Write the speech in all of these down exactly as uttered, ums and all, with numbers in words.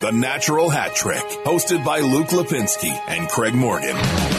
The Natural Hat Trick, hosted by Luke Lipinski and Craig Morgan.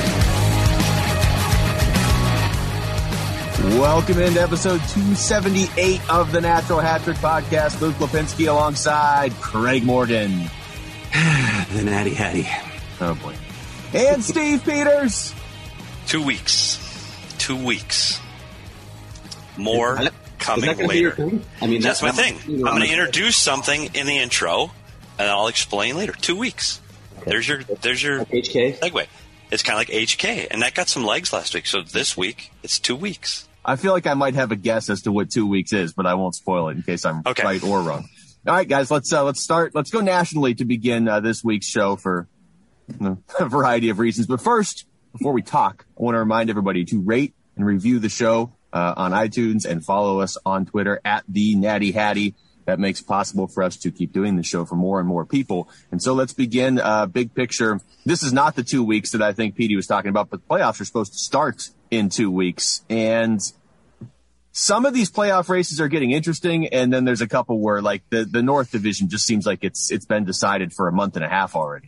Welcome into episode two seventy-eight of the Natural Hat Trick podcast. Luke Lipinski alongside Craig Morgan. The Natty Hattie. Oh, boy. And Steve Peters. Two weeks. Two weeks. More coming later. I mean, that's, that's my thing. I'm going to introduce something in the intro, and I'll explain later. Two weeks. Okay. There's your there's your like H K segue. It's kind of like H K, and that got some legs last week. So this week, it's two weeks. I feel like I might have a guess as to what two weeks is, but I won't spoil it in case I'm okay. right or wrong. All right, guys, let's uh, let's start. Let's go nationally to begin uh, this week's show for you know, a variety of reasons. But first, before we talk, I want to remind everybody to rate and review the show uh, on iTunes and follow us on Twitter at the Natty Hattie. That makes it possible for us to keep doing the show for more and more people. And so let's begin uh, big picture. This is not the two weeks that I think Petey was talking about, but the playoffs are supposed to start in two weeks. And some of these playoff races are getting interesting. And then there's a couple where like the, the North Division just seems like it's it's been decided for a month and a half already.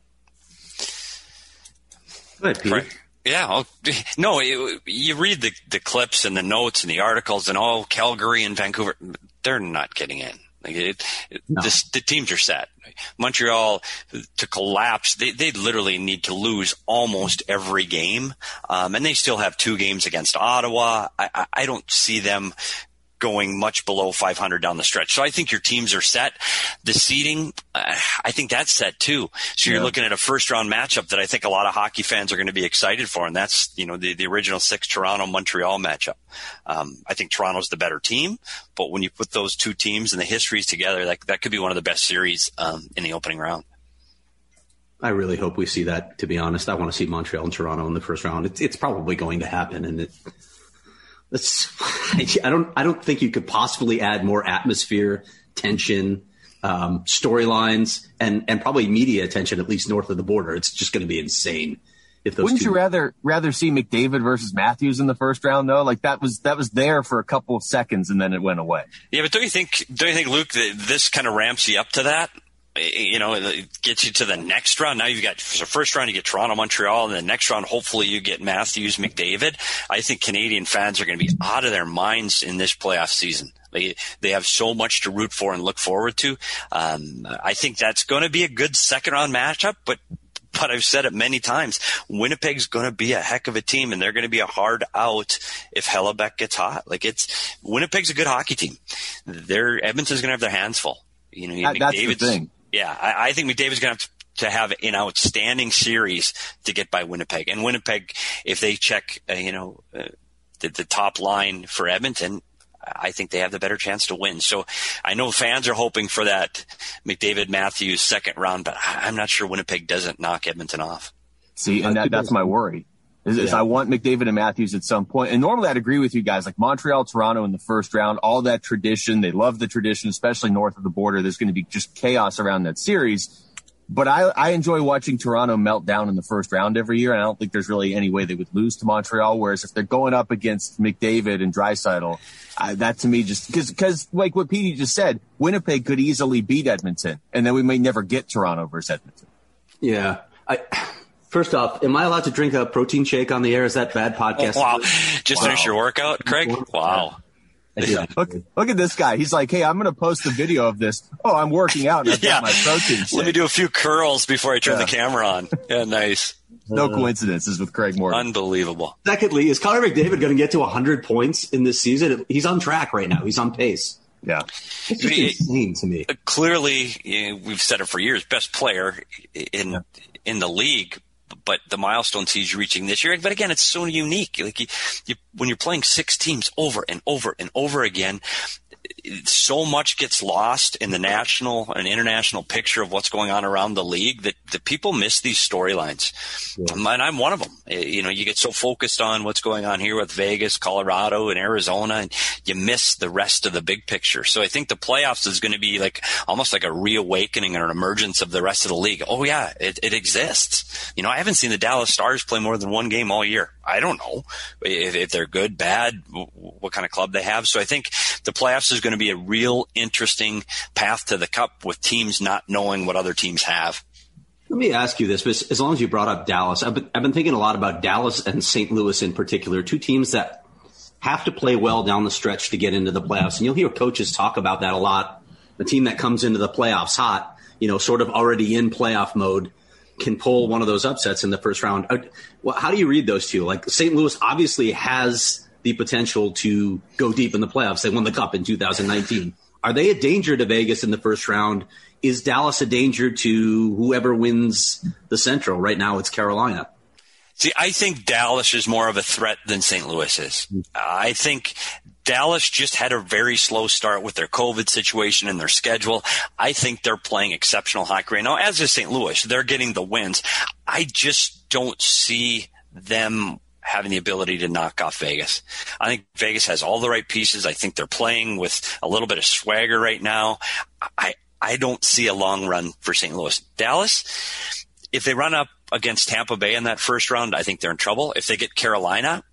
Go ahead, Peter. Right. Yeah. I'll, no, it, you read the, the clips and the notes and the articles and all Calgary and Vancouver, they're not getting in. Like it, it, no. this, the teams are set. Montreal to collapse, they they literally need to lose almost every game, um, and they still have two games against Ottawa. I, I, I don't see them going much below five hundred down the stretch. So I think your teams are set. The seeding, uh, I think that's set too. So you're yeah. looking at a first round matchup that I think a lot of hockey fans are going to be excited for. And that's, you know, the, the original six Toronto Montreal matchup. Um, I think Toronto's the better team, but when you put those two teams and the histories together, that, that could be one of the best series, um, in the opening round. I really hope we see that, to be honest. I want to see Montreal and Toronto in the first round. It's, it's probably going to happen. And it, That's, I don't. I don't think you could possibly add more atmosphere, tension, um, storylines, and and probably media attention, at least north of the border. It's just going to be insane. If those wouldn't two- you rather rather see McDavid versus Matthews in the first round though? Like that was that was there for a couple of seconds and then it went away. Yeah, but don't you think? Don't you think, Luke, that this kind of ramps you up to that? You know, it gets you to the next round. Now you've got the first round, you get Toronto, Montreal, and the next round, hopefully you get Matthews, McDavid. I think Canadian fans are going to be out of their minds in this playoff season. They they have so much to root for and look forward to. Um, I think that's going to be a good second round matchup, but but I've said it many times. Winnipeg's going to be a heck of a team, and they're going to be a hard out if Hellebuck gets hot. Like it's Winnipeg's a good hockey team. They're Edmonton's going to have their hands full. You know, that, that's the thing. Yeah, I, I think McDavid's going to have to have an outstanding series to get by Winnipeg. And Winnipeg, if they check, uh, you know, uh, the, the top line for Edmonton, I think they have the better chance to win. So I know fans are hoping for that McDavid-Matthews second round, but I'm not sure Winnipeg doesn't knock Edmonton off. See, and that, that's my worry. Is, is yeah. I want McDavid and Matthews at some point. And normally I'd agree with you guys, like Montreal, Toronto in the first round, all that tradition. They love the tradition, especially north of the border. There's going to be just chaos around that series. But I, I enjoy watching Toronto melt down in the first round every year. And I don't think there's really any way they would lose to Montreal. Whereas if they're going up against McDavid and Draisaitl, uh, that to me just because, because like what Petey just said, Winnipeg could easily beat Edmonton. And then we may never get Toronto versus Edmonton. Yeah. I. First off, am I allowed to drink a protein shake on the air? Is that bad podcast? Oh, wow. Just wow. Finish your workout, Craig? Wow. Yeah. Look, look at this guy. He's like, hey, I'm going to post a video of this. Oh, I'm working out and I've yeah. got my protein shake. Let me do a few curls before I turn yeah. the camera on. Yeah, nice. No coincidences with Craig Morgan. Unbelievable. Secondly, is Connor McDavid going to get to one hundred points in this season? He's on track right now. He's on pace. Yeah. It's just it, insane to me. Clearly, you know, we've said it for years, best player in yeah. in the league. But the milestones he's reaching this year, but again, it's so unique. Like you, you, when you're playing six teams over and over and over again, so much gets lost in the national and international picture of what's going on around the league that, that people miss these storylines. Yeah. And I'm one of them. You know, you get so focused on what's going on here with Vegas, Colorado, and Arizona, and you miss the rest of the big picture. So I think the playoffs is going to be like almost like a reawakening or an emergence of the rest of the league. Oh yeah, it, it exists. You know, I haven't seen the Dallas Stars play more than one game all year. I don't know if, if they're good, bad, what kind of club they have. So I think the playoffs is is going to be a real interesting path to the Cup with teams not knowing what other teams have. Let me ask you this, but as long as you brought up Dallas, I've been, I've been thinking a lot about Dallas and Saint Louis in particular, two teams that have to play well down the stretch to get into the playoffs. And you'll hear coaches talk about that a lot. The team that comes into the playoffs hot, you know, sort of already in playoff mode, can pull one of those upsets in the first round. Well, how do you read those two? Like, Saint Louis obviously has the potential to go deep in the playoffs. They won the Cup in two thousand nineteen. Are they a danger to Vegas in the first round? Is Dallas a danger to whoever wins the Central? Right now it's Carolina. See, I think Dallas is more of a threat than Saint Louis is. Uh, I think Dallas just had a very slow start with their COVID situation and their schedule. I think they're playing exceptional hockey right now, as is Saint Louis. They're getting the wins. I just don't see them having the ability to knock off Vegas. I think Vegas has all the right pieces. I think they're playing with a little bit of swagger right now. I, I don't see a long run for Saint Louis. Dallas, if they run up against Tampa Bay in that first round, I think they're in trouble. If they get Carolina,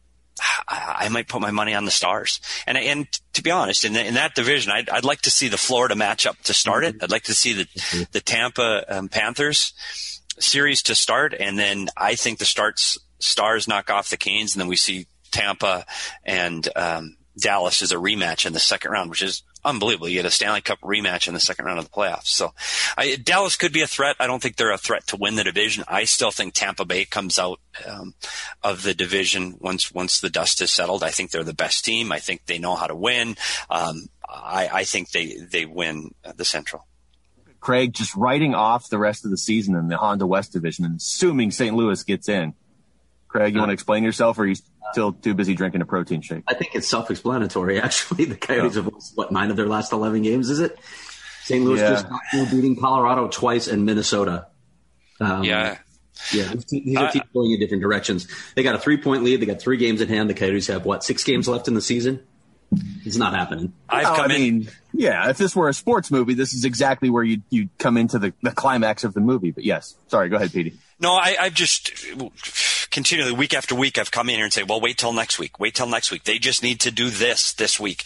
I, I might put my money on the Stars. And and to be honest, in, the, in that division, I'd, I'd like to see the Florida matchup to start it. I'd like to see the the Tampa um, Panthers series to start, and then I think the starts Stars knock off the Canes, and then we see Tampa and um, Dallas as a rematch in the second round, which is unbelievable. You get a Stanley Cup rematch in the second round of the playoffs. So I, Dallas could be a threat. I don't think they're a threat to win the division. I still think Tampa Bay comes out um, of the division once once the dust is settled. I think they're the best team. I think they know how to win. Um, I, I think they, they win the Central. Craig, just writing off the rest of the season in the Honda West division and assuming Saint Louis gets in. Craig, you want to explain yourself, or are you still too busy drinking a protein shake? I think it's self-explanatory, actually. The Coyotes yeah. have lost, what, nine of their last eleven games, is it? Saint Louis yeah. just got through beating Colorado twice and Minnesota. Um, yeah. Yeah, these are teams going in different directions. They got a three-point lead. They got three games in hand. The Coyotes have, what, six games left in the season? It's not happening. I've no, come I in. mean, yeah, if this were a sports movie, this is exactly where you'd, you'd come into the, the climax of the movie. But yes, sorry, go ahead, Petey. No, I, I've just continually, week after week, I've come in here and say, well, wait till next week. Wait till next week. They just need to do this this week.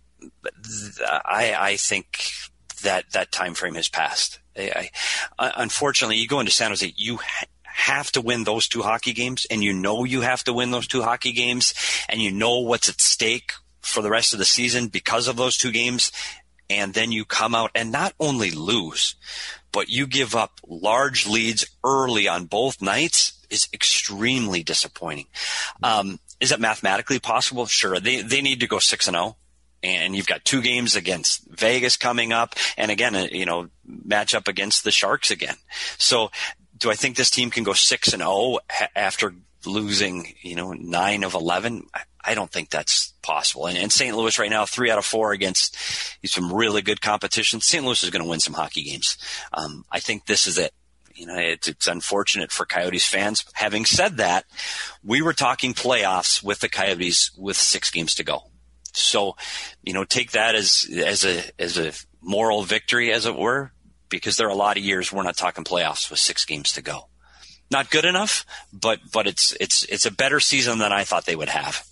I, I think that that time frame has passed. I, I, unfortunately, you go into San Jose, you ha- have to win those two hockey games, and you know you have to win those two hockey games, and you know what's at stake for the rest of the season because of those two games, and then you come out and not only lose, but you give up large leads early on both nights is extremely disappointing. Um, is it mathematically possible? Sure. They they need to go six and oh, and you've got two games against Vegas coming up, and again, you know, match up against the Sharks again. So, do I think this team can go six and oh after losing, you know, nine of eleven? I don't think that's possible. And, and Saint Louis right now, three out of four against some really good competition. Saint Louis is going to win some hockey games. Um, I think this is it. You know, it's, it's unfortunate for Coyotes fans. Having said that, we were talking playoffs with the Coyotes with six games to go. So, you know, take that as as a as a moral victory, as it were, because there are a lot of years we're not talking playoffs with six games to go. Not good enough, but but it's it's it's a better season than I thought they would have.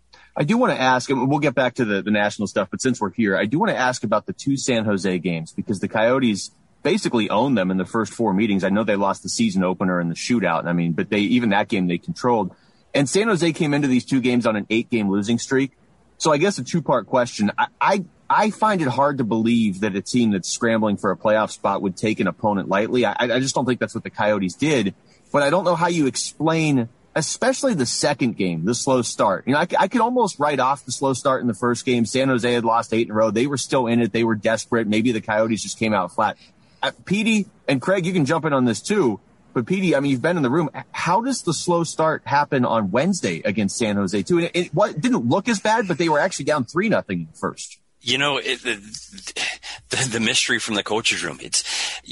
I do want to ask, and we'll get back to the, the national stuff, but since we're here, I do want to ask about the two San Jose games, because the Coyotes basically owned them in the first four meetings. I know they lost the season opener in the shootout. I mean, but they, even that game they controlled. And San Jose came into these two games on an eight game losing streak. So I guess a two part question. I, I, I find it hard to believe that a team that's scrambling for a playoff spot would take an opponent lightly. I, I just don't think that's what the Coyotes did, but I don't know how you explain, especially the second game, the slow start. You know, I, I could almost write off the slow start in the first game. San Jose had lost eight in a row. They were still in it. They were desperate. Maybe the Coyotes just came out flat. Uh, Petey and Craig, you can jump in on this too. But Petey, I mean, you've been in the room. How does the slow start happen on Wednesday against San Jose too? And it, it, what, it didn't look as bad, but they were actually down three nothing first. You know, it, the, the, the mystery from the coach's room. It's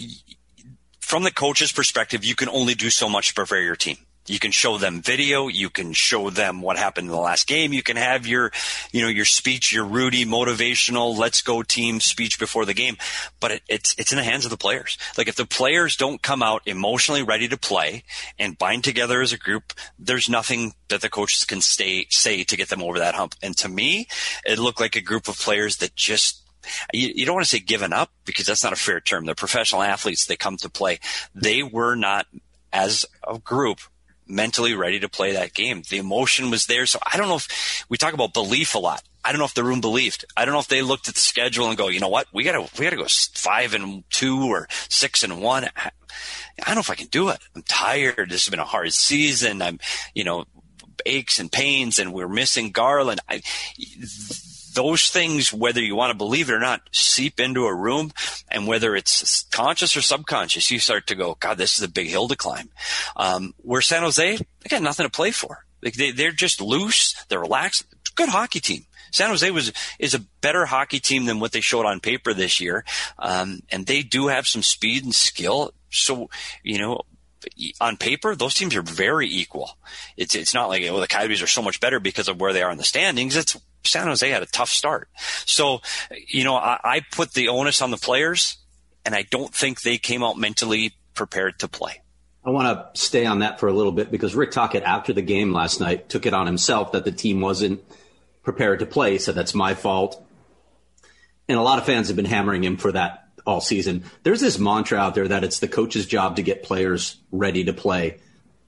from the coach's perspective. You can only do so much to prepare your team. You can show them video. You can show them what happened in the last game. You can have your, you know, your speech, your Rudy motivational, let's go team speech before the game. But it, it's, it's in the hands of the players. Like if the players don't come out emotionally ready to play and bind together as a group, there's nothing that the coaches can stay, say to get them over that hump. And to me, it looked like a group of players that just you, you don't want to say given up because that's not a fair term. They're professional athletes. They come to play. They were not, as a group, mentally ready to play that game. The emotion was there. So I don't know if we talk about belief a lot. I don't know if the room believed. I don't know if they looked at the schedule and go, you know what, we gotta, we gotta go five and two or six and one. I, I don't know if I can do it. I'm tired. This has been a hard season. I'm, you know, aches and pains, and we're missing Garland. I, those things, whether you want to believe it or not, seep into a room, and whether it's conscious or subconscious, you start to go, God, this is a big hill to climb. Um, where San Jose, they got nothing to play for. Like they, they're just loose. They're relaxed. Good hockey team. San Jose was is a better hockey team than what they showed on paper this year, um, and they do have some speed and skill. So, you know, on paper, those teams are very equal. It's it's not like, oh, the Coyotes are so much better because of where they are in the standings. It's San Jose had a tough start. So, you know, I, I put the onus on the players, and I don't think they came out mentally prepared to play. I want to stay on that for a little bit because Rick Tocchet, after the game last night, took it on himself that the team wasn't prepared to play. So that's my fault. And a lot of fans have been hammering him for that all season. There's this mantra out there that it's the coach's job to get players ready to play.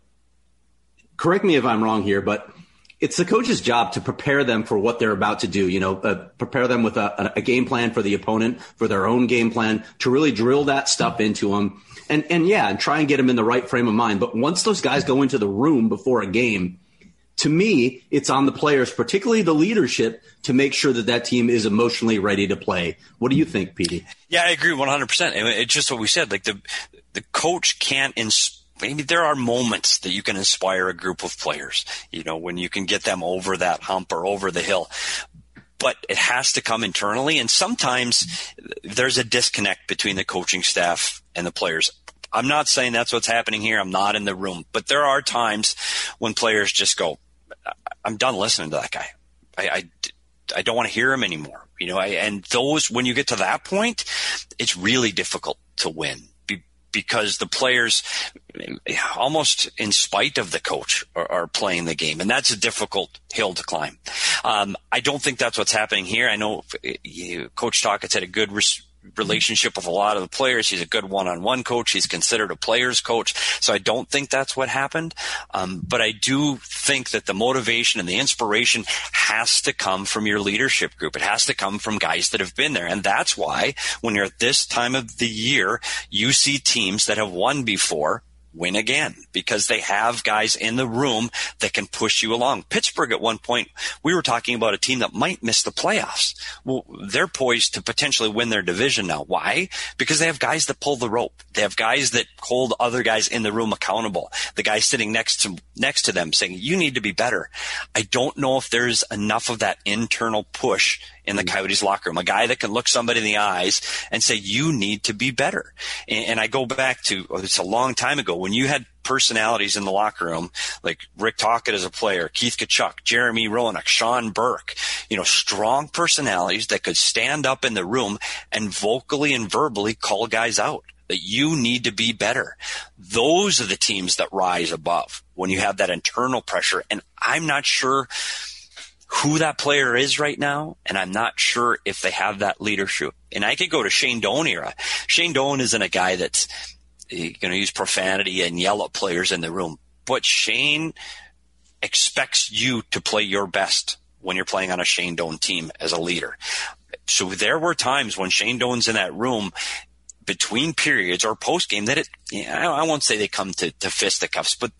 Correct me if I'm wrong here, but it's the coach's job to prepare them for what they're about to do. You know, uh, prepare them with a, a game plan for the opponent, for their own game plan, to really drill that stuff into them. And, and yeah, and try and get them in the right frame of mind. But once those guys go into the room before a game, to me, it's on the players, particularly the leadership, to make sure that that team is emotionally ready to play. What do you think, Petey? Yeah, I agree one hundred percent. It's just what we said. Like the the coach can't inspire. Maybe there are moments that you can inspire a group of players, you know, when you can get them over that hump or over the hill. But it has to come internally. And sometimes there's a disconnect between the coaching staff and the players. I'm not saying that's what's happening here. I'm not in the room. But there are times when players just go, I'm done listening to that guy. I, I, I don't want to hear him anymore. You know, I, and those, when you get to that point, it's really difficult to win. Because the players, almost in spite of the coach, are, are playing the game. And that's a difficult hill to climb. Um, I don't think that's what's happening here. I know you, Coach Tocchet's had a good res- relationship with a lot of the players. He's a good one-on-one coach. He's considered a player's coach. So I don't think that's what happened. Um, but I do think that the motivation and the inspiration has to come from your leadership group. It has to come from guys that have been there. And that's why when you're at this time of the year, you see teams that have won before win again, because they have guys in the room that can push you along. Pittsburgh, at one point, we were talking about a team that might miss the playoffs. Well, they're poised to potentially win their division now. Why? Because they have guys that pull the rope. They have guys that hold other guys in the room accountable. The guy sitting next to next to them saying, you need to be better. I don't know if there's enough of that internal push in the Coyotes locker room, a guy that can look somebody in the eyes and say, you need to be better. And, and I go back to, oh, it's a long time ago, when you had personalities in the locker room, like Rick Tocchet as a player, Keith Tkachuk, Jeremy Roenick, Sean Burke, you know, strong personalities that could stand up in the room and vocally and verbally call guys out that you need to be better. Those are the teams that rise above when you have that internal pressure. And I'm not sure who that player is right now, and I'm not sure if they have that leadership. And I could go to Shane Doan era. Shane Doan isn't a guy that's going to use profanity and yell at players in the room, but Shane expects you to play your best when you're playing on a Shane Doan team as a leader. So there were times when Shane Doan's in that room between periods or post game that it, you know, I won't say they come to, to fisticuffs, but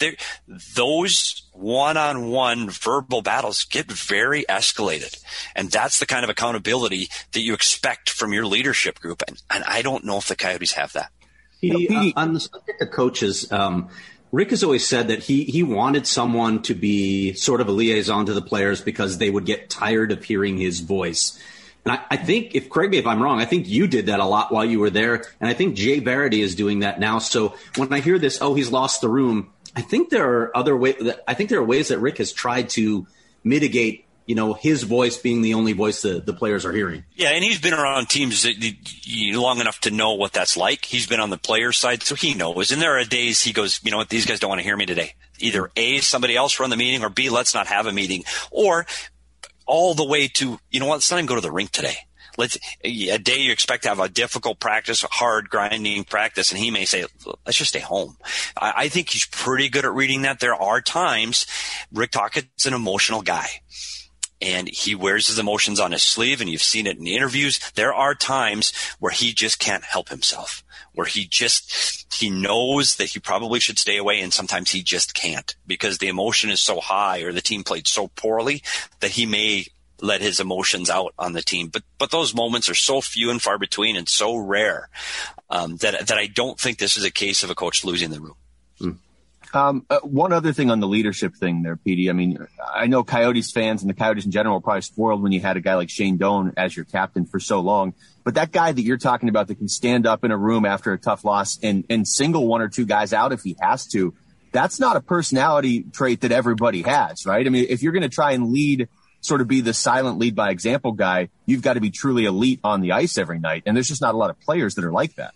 those one-on-one verbal battles get very escalated. And that's the kind of accountability that you expect from your leadership group. And, and I don't know if the Coyotes have that. He, uh, on the subject of coaches, um, Rick has always said that he, he wanted someone to be sort of a liaison to the players because they would get tired of hearing his voice. And I, I think, if correct me if I'm wrong, I think you did that a lot while you were there. And I think Jay Verity is doing that now. So when I hear this, oh, he's lost the room, I think there are other ways that I think there are ways that Rick has tried to mitigate, you know, his voice being the only voice that the players are hearing. Yeah, and he's been around teams long enough to know what that's like. He's been on the player side, so he knows. And there are days he goes, you know what, these guys don't want to hear me today. Either A, somebody else run the meeting, or B, let's not have a meeting. Or all the way to, you know what, let's not even go to the rink today. let's a day you expect to have a difficult practice, hard grinding practice, and he may say, let's just stay home. I, I think he's pretty good at reading that. There are times Rick Tocchet's an emotional guy. And he wears his emotions on his sleeve, and you've seen it in the interviews. There are times where he just can't help himself, where he just, he knows that he probably should stay away, and sometimes he just can't because the emotion is so high or the team played so poorly that he may let his emotions out on the team. But but those moments are so few and far between and so rare um, that that I don't think this is a case of a coach losing the room. Mm. Um, uh, one other thing on the leadership thing there, Petey. I mean, I know Coyotes fans and the Coyotes in general are probably spoiled when you had a guy like Shane Doan as your captain for so long. But that guy that you're talking about that can stand up in a room after a tough loss and, and single one or two guys out if he has to, that's not a personality trait that everybody has, right? I mean, if you're going to try and lead, sort of be the silent lead by example guy, you've got to be truly elite on the ice every night. And there's just not a lot of players that are like that.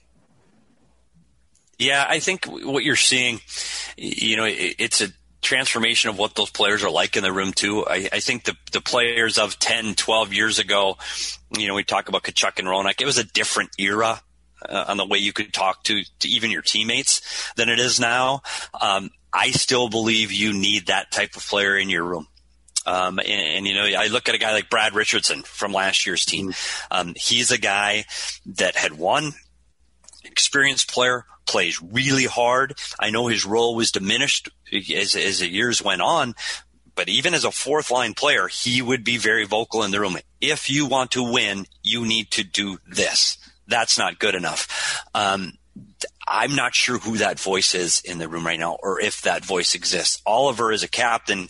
Yeah, I think what you're seeing, you know, it's a transformation of what those players are like in the room too. I, I think the the players of ten, twelve years ago, you know, we talk about Tkachuk and Ronak. It was a different era uh, on the way you could talk to, to even your teammates than it is now. Um, I still believe you need that type of player in your room. Um, and, and, you know, I look at a guy like Brad Richardson from last year's team. Um, he's a guy that had won, experienced player, plays really hard. I know his role was diminished as, as the years went on, but even as a fourth line player, he would be very vocal in the room. If you want to win, you need to do this. That's not good enough. Um, I'm not sure who that voice is in the room right now, or if that voice exists. Oliver is a captain.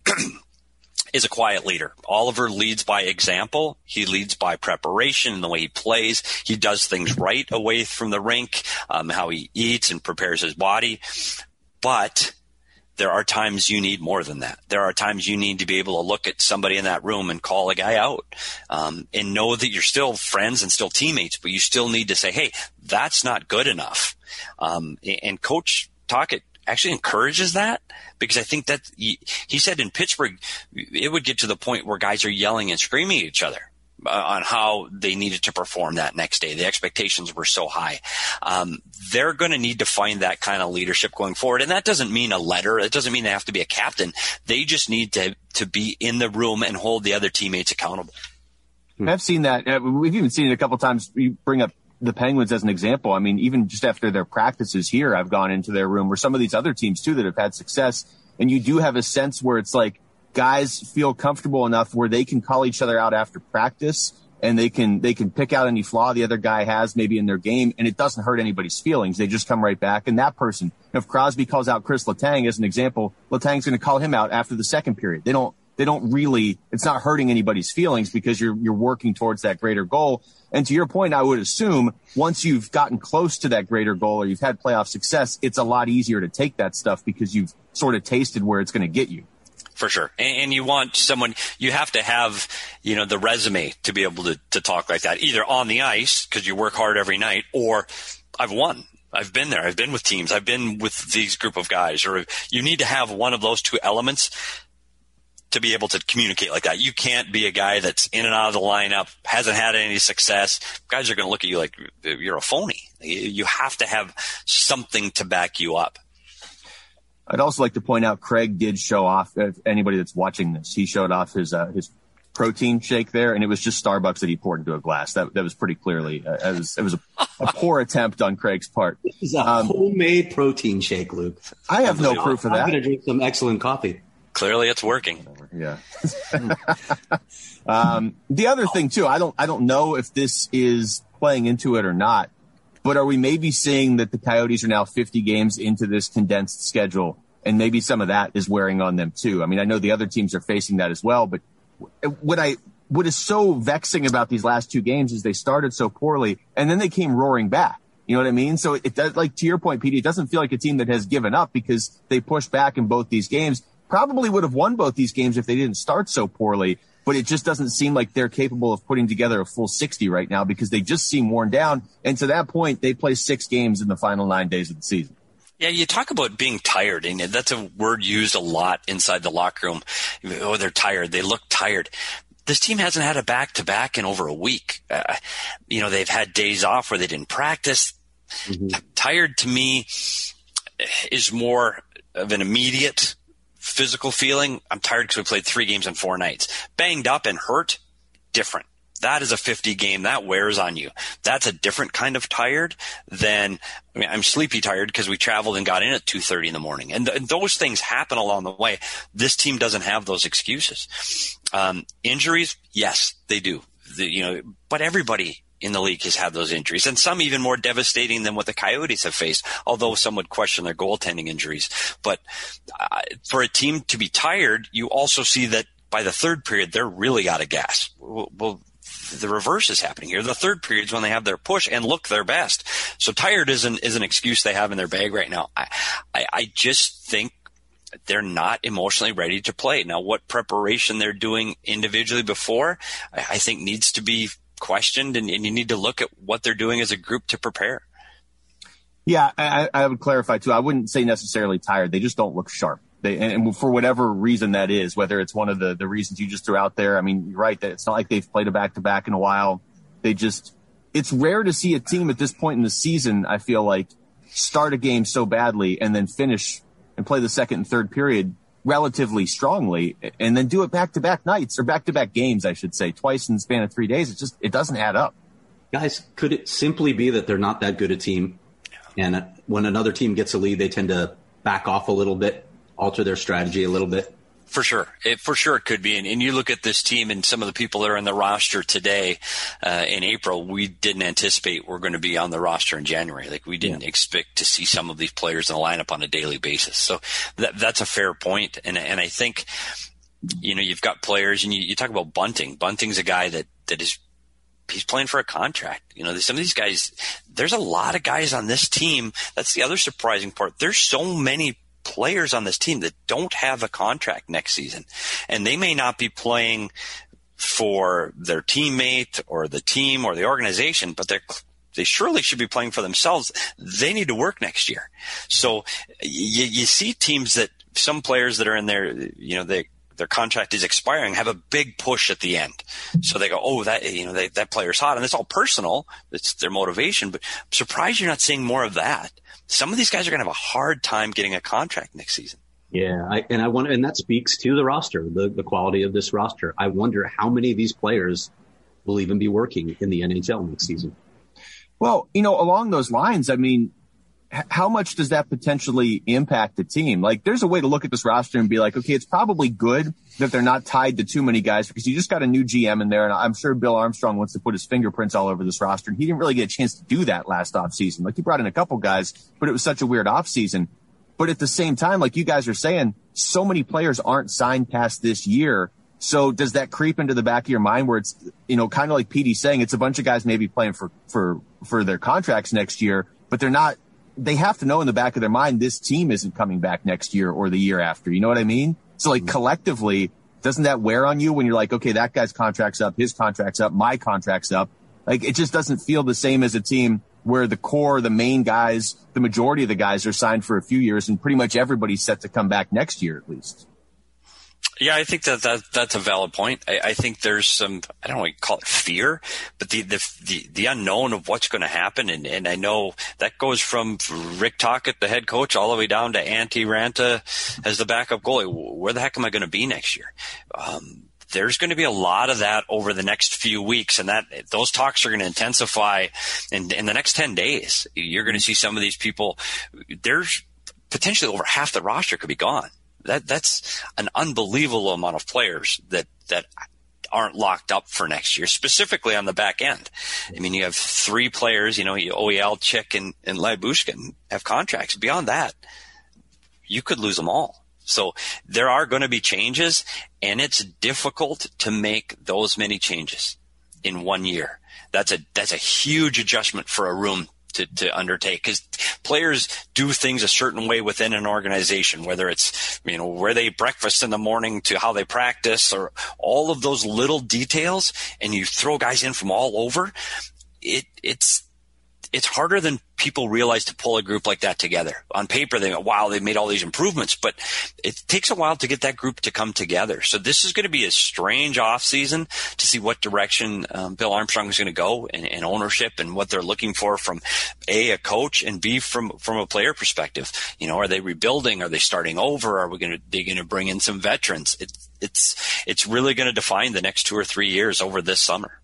is a quiet leader. Oliver leads by example. He leads by preparation and the way he plays. He does things right away from the rink, um, how he eats and prepares his body. But there are times you need more than that. There are times you need to be able to look at somebody in that room and call a guy out, um, and know that you're still friends and still teammates, but you still need to say, hey, that's not good enough. Um, and Coach Tocchet actually encourages that, because I think that he, he said in Pittsburgh, it would get to the point where guys are yelling and screaming at each other uh, on how they needed to perform that next day. The expectations were so high. Um, they're going to need to find that kind of leadership going forward. And that doesn't mean a letter. It doesn't mean they have to be a captain. They just need to, to be in the room and hold the other teammates accountable. I've seen that. We've even seen it a couple times. You bring up the Penguins as an example. I mean, even just after their practices here, I've gone into their room, or some of these other teams too that have had success. And you do have a sense where it's like guys feel comfortable enough where they can call each other out after practice, and they can, they can pick out any flaw the other guy has maybe in their game, and it doesn't hurt anybody's feelings. They just come right back. And that person, if Crosby calls out Chris Letang as an example, Letang's going to call him out after the second period. They don't, they don't really, it's not hurting anybody's feelings because you're, you're working towards that greater goal. And to your point, I would assume once you've gotten close to that greater goal or you've had playoff success, it's a lot easier to take that stuff because you've sort of tasted where it's going to get you. For sure. And, and you want someone, you have to have, you know, the resume to be able to, to talk like that, either on the ice because you work hard every night, or I've won. I've been there. I've been with teams. I've been with these group of guys. Or you need to have one of those two elements to be able to communicate like that. You can't be a guy that's in and out of the lineup, hasn't had any success. Guys are going to look at you like you're a phony. You have to have something to back you up. I'd also like to point out Craig did show off, if anybody that's watching this, he showed off his uh, his protein shake there, and it was just Starbucks that he poured into a glass. That that was pretty clearly, uh, it was, it was a, a poor attempt on Craig's part. This is a um, homemade protein shake, Luke. I have no proof of that. I'm going to drink some excellent coffee. Clearly it's working. Yeah. um, the other thing too, I don't, I don't know if this is playing into it or not, but are we maybe seeing that the Coyotes are now fifty games into this condensed schedule, and maybe some of that is wearing on them too? I mean, I know the other teams are facing that as well, but what I, what is so vexing about these last two games is they started so poorly and then they came roaring back. You know what I mean? So it does, like to your point, Petey, it doesn't feel like a team that has given up because they pushed back in both these games. Probably would have won both these games if they didn't start so poorly, but it just doesn't seem like they're capable of putting together a full sixty right now because they just seem worn down. And to that point, they play six games in the final nine days of the season. Yeah, you talk about being tired, and that's a word used a lot inside the locker room. Oh, they're tired. They look tired. this team hasn't had a back-to-back in over a week. Uh, you know, they've had days off where they didn't practice. Mm-hmm. Tired to me is more of an immediate physical feeling. I'm tired because we played three games in four nights. Banged up and hurt, different. That is a fifty game. That wears on you. That's a different kind of tired than, I mean, I'm sleepy tired because we traveled and got in at two thirty in the morning. And, th- and those things happen along the way. This team doesn't have those excuses. Um, injuries, yes, they do. The, you know, but everybody in the league has had those injuries, and some even more devastating than what the Coyotes have faced, although some would question their goaltending injuries. But uh, for a team to be tired, you also see that by the third period, they're really out of gas. Well, well the reverse is happening here. The third period is when they have their push and look their best. So tired is an, is an excuse they have in their bag right now. I, I, I just think they're not emotionally ready to play. Now, what preparation they're doing individually before, I, I think needs to be questioned, and, and you need to look at what they're doing as a group to prepare. Yeah, I, I would clarify too. I wouldn't say necessarily tired. They just don't look sharp. They, and for whatever reason that is, whether it's one of the, the reasons you just threw out there. I mean, you're right that it's not like they've played a back-to-back in a while. They just, it's rare to see a team at this point in the season, I feel like, start a game so badly and then finish and play the second and third period relatively strongly and then do it back-to-back nights, or back-to-back games, I should say, twice in the span of three days. It just, it doesn't add up. Guys, could it simply be that they're not that good a team? And when another team gets a lead, they tend to back off a little bit, alter their strategy a little bit? For sure. It, for sure it could be. And, and you look at this team and some of the people that are in the roster today uh, in April, we didn't anticipate we're going to be on the roster in January. Like we didn't yeah. expect to see some of these players in the lineup on a daily basis. So that, that's a fair point. And, and I think, you know, you've got players, and you, you talk about Bunting. Bunting's a guy that, that is, he's playing for a contract. You know, some of these guys, there's a lot of guys on this team. That's the other surprising part. There's so many players on this team that don't have a contract next season, and they may not be playing for their teammate or the team or the organization, but they're they surely should be playing for themselves. They need to work next year. So you, you see teams that some players that are in there, you know, they, their contract is expiring, have a big push at the end. So they go, oh, that, you know, they, that player's hot, and it's all personal. It's their motivation, but I'm surprised you're not seeing more of that. Some of these guys are going to have a hard time getting a contract next season. Yeah, I, and I wonder, and that speaks to the roster, the, the quality of this roster. I wonder how many of these players will even be working in the N H L next season. Well, you know, along those lines, I mean, h- how much does that potentially impact the team? Like, there's a way to look at this roster and be like, okay, it's probably good that they're not tied to too many guys, because you just got a new G M in there, and I'm sure Bill Armstrong wants to put his fingerprints all over this roster, and he didn't really get a chance to do that last offseason. Like, he brought in a couple guys, but it was such a weird offseason. But at the same time, like you guys are saying, so many players aren't signed past this year. So does that creep into the back of your mind where it's, you know, kind of like Petey's saying, it's a bunch of guys maybe playing for, for, for their contracts next year, but they're not, they have to know in the back of their mind, this team isn't coming back next year or the year after. You know what I mean? So like collectively, doesn't that wear on you when you're like, okay, that guy's contract's up, his contract's up, my contract's up? Like, it just doesn't feel the same as a team where the core, the main guys, the majority of the guys are signed for a few years, and pretty much everybody's set to come back next year at least. Yeah, I think that, that that's a valid point. I, I think there's some, I don't want to call it fear, but the the the, the unknown of what's going to happen. And, and I know that goes from Rick Tocchet, the head coach, all the way down to Antti Ranta as the backup goalie. Where the heck am I going to be next year? Um, there's going to be a lot of that over the next few weeks, and that those talks are going to intensify in, in the next ten days. You're going to see some of these people. There's potentially over half the roster could be gone. That that's an unbelievable amount of players that, that aren't locked up for next year, specifically on the back end. I mean, you have three players, you know, O E L, Chick, and, and Lyubushkin have contracts. Beyond that, you could lose them all. So there are going to be changes, and it's difficult to make those many changes in one year. That's a, that's a huge adjustment for a room to, to undertake, because players do things a certain way within an organization, whether it's, you know, where they eat breakfast in the morning to how they practice, or all of those little details, and you throw guys in from all over. It, it's, it's harder than people realize to pull a group like that together. On paper, they go, wow, they've made all these improvements, but it takes a while to get that group to come together. So this is going to be a strange offseason to see what direction um, Bill Armstrong is going to go in, in ownership and what they're looking for from A, a coach, and B, from, from a player perspective. You know, are they rebuilding? Are they starting over? Are we going to, they going to bring in some veterans? It, it's, it's really going to define the next two or three years over this summer.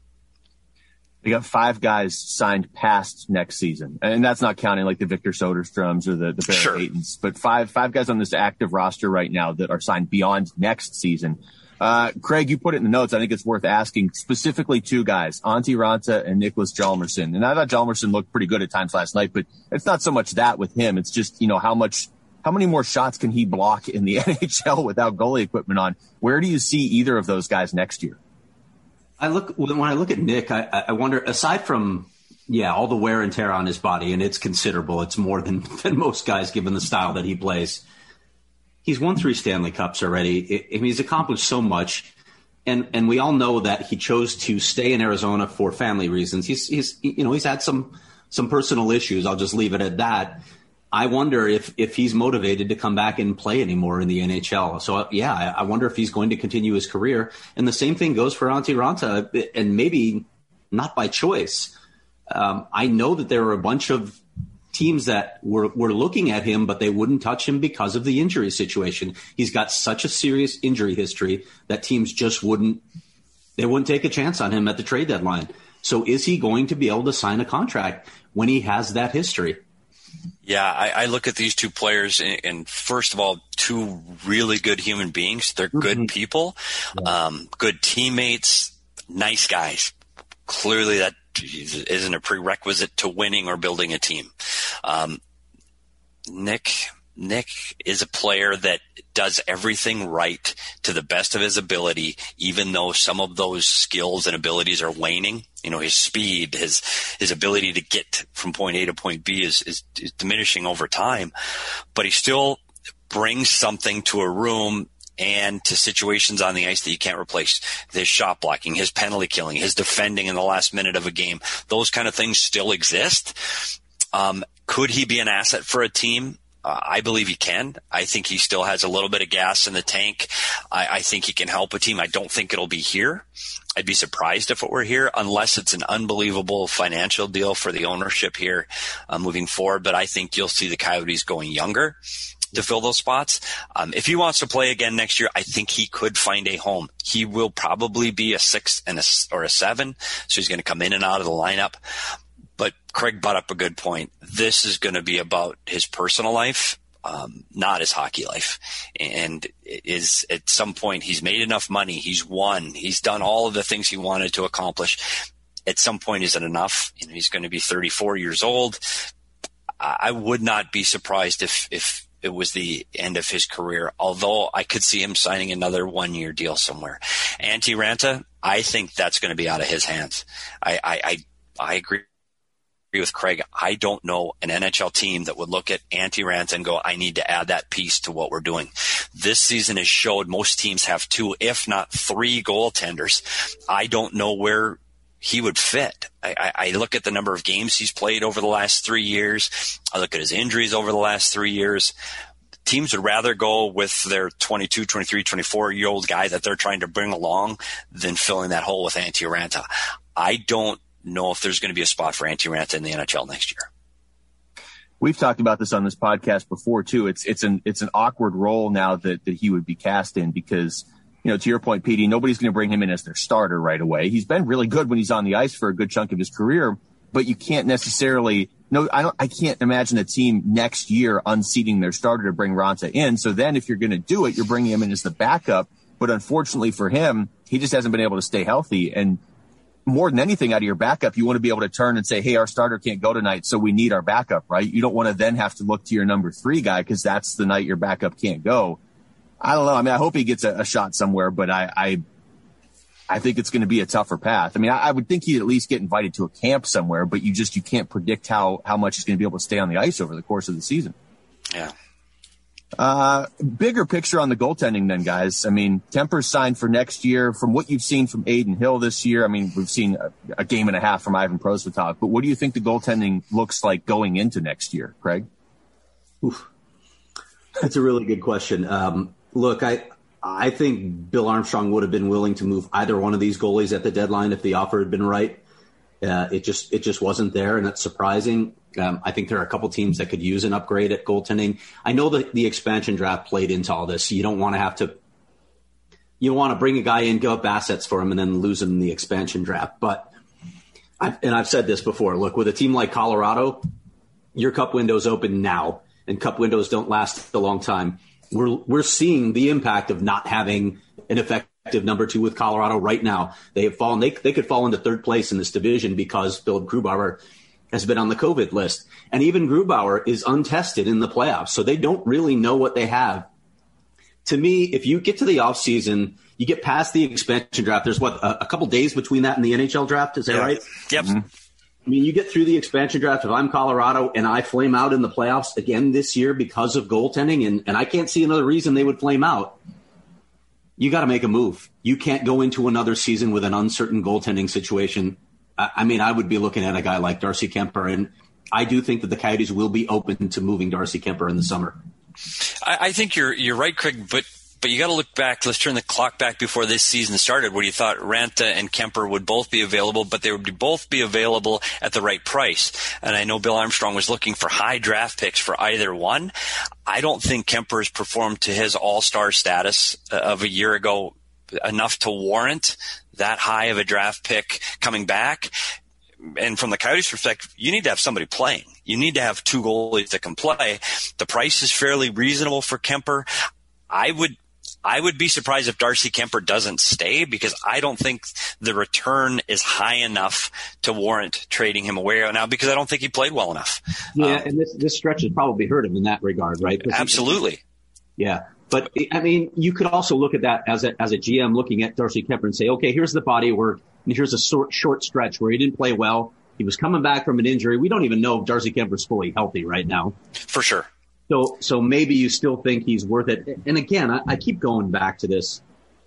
They got five guys signed past next season, and that's not counting like the Victor Soderstroms or the, the Barrett Sure. Haytons, but five five guys on this active roster right now that are signed beyond next season. Uh, Craig, you put it in the notes. I think it's worth asking specifically two guys, Antti Raanta and Nicklas Hjalmarsson. And I thought Hjalmarsson looked pretty good at times last night, but it's not so much that with him. It's just, you know, how much, how many more shots can he block in the N H L without goalie equipment on? Where do you see either of those guys next year? I look when I look at Nick, I, I wonder, aside from, yeah, all the wear and tear on his body, and it's considerable. It's more than, than most guys given the style that he plays. He's won three Stanley Cups already. I mean, he's accomplished so much. And and we all know that he chose to stay in Arizona for family reasons. He's he's you know, he's had some some personal issues. I'll just leave it at that. I wonder if, if he's motivated to come back and play anymore in the N H L. So, yeah, I, I wonder if he's going to continue his career. And the same thing goes for Antti Raanta, and maybe not by choice. Um, I know that there are a bunch of teams that were, were looking at him, but they wouldn't touch him because of the injury situation. He's got such a serious injury history that teams just wouldn't – they wouldn't take a chance on him at the trade deadline. So is he going to be able to sign a contract when he has that history? Yeah, I, I look at these two players, and, and first of all, two really good human beings. They're good mm-hmm. people, yeah. um, good teammates, nice guys. Clearly, that isn't a prerequisite to winning or building a team. Um, Nick, Nick is a player that does everything right to the best of his ability, even though some of those skills and abilities are waning. You know, his speed, his his ability to get from point A to point B is, is, is diminishing over time. But he still brings something to a room and to situations on the ice that you can't replace. His shot blocking, his penalty killing, his defending in the last minute of a game. Those kind of things still exist. Um, could he be an asset for a team? Uh, I believe he can. I think he still has a little bit of gas in the tank. I, I think he can help a team. I don't think it'll be here. I'd be surprised if it were here, unless it's an unbelievable financial deal for the ownership here uh, moving forward. But I think you'll see the Coyotes going younger to fill those spots. Um, if he wants to play again next year, I think he could find a home. He will probably be a six and a, or a seven, so he's going to come in and out of the lineup. But Craig brought up a good point. This is going to be about his personal life, um, not his hockey life. And is at some point he's made enough money. He's won. He's done all of the things he wanted to accomplish. At some point, is it enough? You know, he's going to be thirty-four years old. I would not be surprised if, if it was the end of his career, although I could see him signing another one-year deal somewhere. Antti Raanta, I think that's going to be out of his hands. I, I, I, I agree. with Craig. I don't know an N H L team that would look at Antti Raanta and go, I need to add that piece to what we're doing. This season has showed most teams have two, if not three goaltenders. I don't know where he would fit. I, I look at the number of games he's played over the last three years. I look at his injuries over the last three years. Teams would rather go with their twenty-two, twenty-three, twenty-four-year-old guy that they're trying to bring along than filling that hole with Antti Raanta. I don't know if there's going to be a spot for Antti Raanta in the N H L next year. We've talked about this on this podcast before too. It's it's an it's an awkward role now that, that he would be cast in because, you know, to your point, Petey, nobody's going to bring him in as their starter right away. He's been really good when he's on the ice for a good chunk of his career, but you can't necessarily no, I don't I can't imagine a team next year unseating their starter to bring Raanta in. So then if you're going to do it, you're bringing him in as the backup. But unfortunately for him, he just hasn't been able to stay healthy. And more than anything out of your backup, you want to be able to turn and say, hey, our starter can't go tonight, so we need our backup, right? You don't want to then have to look to your number three guy because that's the night your backup can't go. I don't know. I mean, I hope he gets a, a shot somewhere, but I, I, I think it's going to be a tougher path. I mean, I, I would think he'd at least get invited to a camp somewhere, but you just, you can't predict how, how much he's going to be able to stay on the ice over the course of the season. Yeah. Uh, bigger picture on the goaltending then, guys. I mean, Kemper's signed for next year. From what you've seen from Adin Hill this year, I mean, we've seen a, a game and a half from Ivan Prosvetov. But what do you think the goaltending looks like going into next year, Craig? Oof. That's a really good question. Um, look, I I think Bill Armstrong would have been willing to move either one of these goalies at the deadline if the offer had been right. Uh, it just it just wasn't there, and that's surprising. Um, I think there are a couple teams that could use an upgrade at goaltending. I know that the expansion draft played into all this. You don't want to have to – you want to bring a guy in, give up assets for him, and then lose him in the expansion draft. But I've, – and I've said this before. Look, with a team like Colorado, your cup window's open now, and cup windows don't last a long time. We're we're seeing the impact of not having an effective number two with Colorado right now. They have fallen. They they could fall into third place in this division because Philip Grubauer has been on the COVID list, and even Grubauer is untested in the playoffs, so they don't really know what they have. To me, if you get to the offseason, you get past the expansion draft. There's what a, a couple days between that and the N H L draft. Is that yeah. right? Yep. Mm-hmm. I mean, you get through the expansion draft. If I'm Colorado and I flame out in the playoffs again this year because of goaltending, and, and I can't see another reason they would flame out, you got to make a move. You can't go into another season with an uncertain goaltending situation. I, I mean, I would be looking at a guy like Darcy Kemper, and I do think that the Coyotes will be open to moving Darcy Kemper in the summer. I, I think you're you're right, Craig, but But you got to look back. Let's turn the clock back before this season started, where you thought Ranta and Kemper would both be available, but they would both be available at the right price. And I know Bill Armstrong was looking for high draft picks for either one. I don't think Kemper has performed to his all-star status of a year ago enough to warrant that high of a draft pick coming back. And from the Coyotes' perspective, you need to have somebody playing. You need to have two goalies that can play. The price is fairly reasonable for Kemper. I would I would be surprised if Darcy Kemper doesn't stay, because I don't think the return is high enough to warrant trading him away right now, because I don't think he played well enough. Yeah, um, and this this stretch has probably hurt him in that regard, right? Absolutely. Yeah. But, I mean, you could also look at that as a, as a G M looking at Darcy Kemper and say, okay, here's the body of work, and here's a short, short stretch where he didn't play well. He was coming back from an injury. We don't even know if Darcy Kemper's fully healthy right now. For sure. So, so maybe you still think he's worth it. And again, I, I keep going back to this.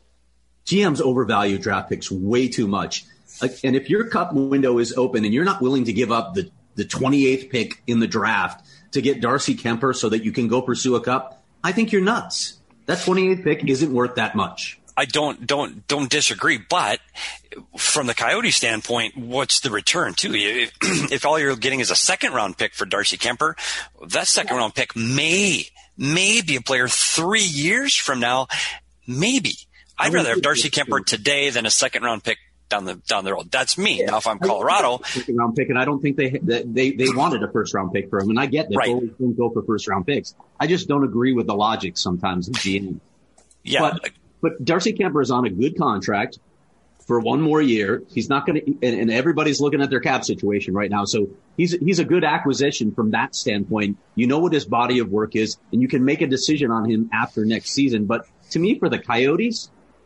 G Ms overvalue draft picks way too much. Like, and if your cup window is open and you're not willing to give up the, the twenty-eighth pick in the draft to get Darcy Kemper so that you can go pursue a cup, I think you're nuts. That twenty-eighth pick isn't worth that much. I don't don't don't disagree, but from the Coyote standpoint, what's the return too? If, if all you're getting is a second round pick for Darcy Kemper, that second round pick may may be a player three years from now. Maybe I'd rather have Darcy Kemper today than a second round pick down the down the road. That's me. Yeah. Now, if I'm Colorado, second round pick, and I don't think they they they wanted a first round pick for him, and I get that right. Goalies don't go for first round picks. I just don't agree with the logic sometimes of G M. Yeah. But, But Darcy Kemper is on a good contract for one more year. He's not going to, and, and everybody's looking at their cap situation right now. So he's he's a good acquisition from that standpoint. You know what his body of work is, and you can make a decision on him after next season. But to me, for the Coyotes,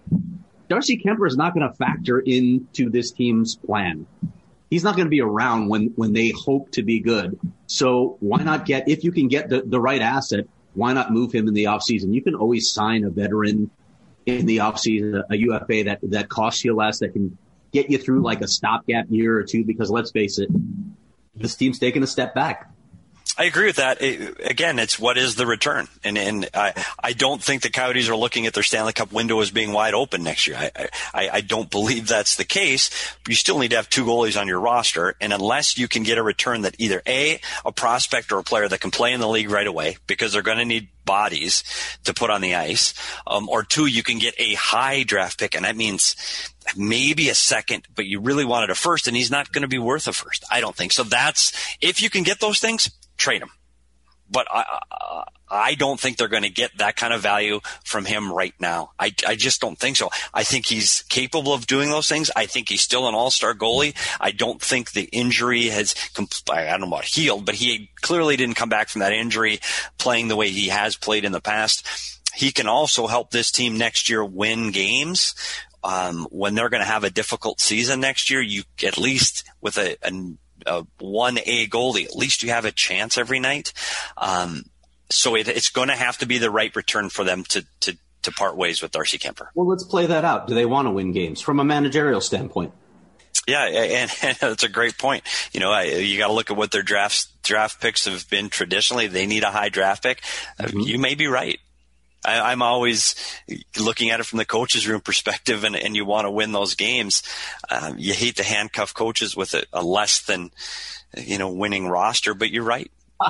Darcy Kemper is not going to factor into this team's plan. He's not going to be around when, when they hope to be good. So why not get, if you can get the, the right asset, why not move him in the offseason? You can always sign a veteran in the offseason, a U F A that, that costs you less, that can get you through like a stopgap year or two, because let's face it, this team's taking a step back. I agree with that. It, again, it's what is the return? And and I, I don't think the Coyotes are looking at their Stanley Cup window as being wide open next year. I, I, I don't believe that's the case. But you still need to have two goalies on your roster. And unless you can get a return that either A, a prospect or a player that can play in the league right away, because they're going to need bodies to put on the ice, um, or two, you can get a high draft pick, and that means maybe a second, but you really wanted a first, and he's not going to be worth a first. I don't think so. That's, if you can get those things, trade him. But I, I, I don't think they're going to get that kind of value from him right now. I, I just don't think so. I think he's capable of doing those things. I think he's still an all-star goalie. I don't think the injury has, I don't know about healed, but he clearly didn't come back from that injury playing the way he has played in the past. He can also help this team next year win games. Um, when they're going to have a difficult season next year, you at least with a, a, a one A goalie, at least you have a chance every night. Um, So it, it's going to have to be the right return for them to, to, to part ways with Darcy Kuemper. Well, let's play that out. Do they want to win games from a managerial standpoint? Yeah, and, and that's a great point. You know, I, you got to look at what their drafts, draft picks have been traditionally. They need a high draft pick. Mm-hmm. You may be right. I, I'm always looking at it from the coach's room perspective, and, and you want to win those games. Um, you hate to handcuff coaches with a, a less than, you know, winning roster, but you're right.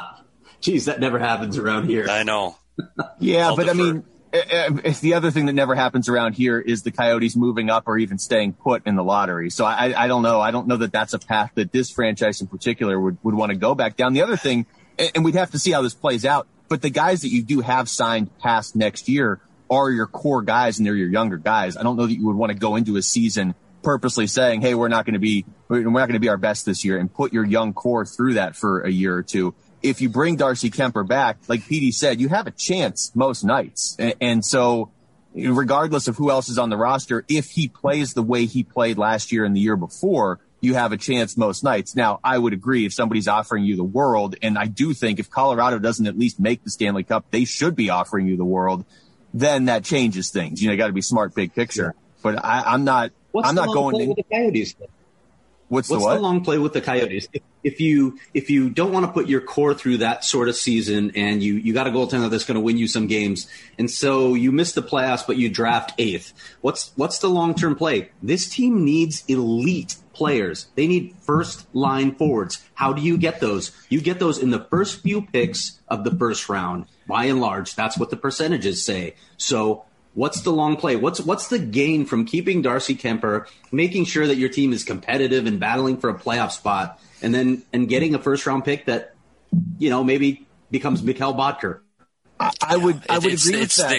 Geez, that never happens around here. I know. Yeah, I'll but defer. I mean, if the other thing that never happens around here is the Coyotes moving up or even staying put in the lottery. So I, I don't know. I don't know that that's a path that this franchise in particular would, would want to go back down. The other thing, and we'd have to see how this plays out, but the guys that you do have signed past next year are your core guys, and they're your younger guys. I don't know that you would want to go into a season purposely saying, hey, we're not going to be, we're not going to be our best this year, and put your young core through that for a year or two. If you bring Darcy Kuemper back, like Petey said, you have a chance most nights. And, and so regardless of who else is on the roster, if he plays the way he played last year and the year before, you have a chance most nights. Now, I would agree if somebody's offering you the world, and I do think if Colorado doesn't at least make the Stanley Cup, they should be offering you the world, then that changes things. You know, you got to be smart, big picture. Yeah. But I, I'm not, What's I'm not going to with the Coyotes. Then? What's, What's the what? the long play with the Coyotes? If, if you if you don't want to put your core through that sort of season, and you, you got a goaltender that's going to win you some games, and so you miss the playoffs, but you draft eighth. What's what's the long term play? This team needs elite players. They need first line forwards. How do you get those? You get those in the first few picks of the first round. By and large, that's what the percentages say. So what's the long play? What's what's the gain from keeping Darcy Kuemper, making sure that your team is competitive and battling for a playoff spot, and then and getting a first round pick that, you know, maybe becomes Mikhail Bodker? I, I would I would it's, agree it's with that. the,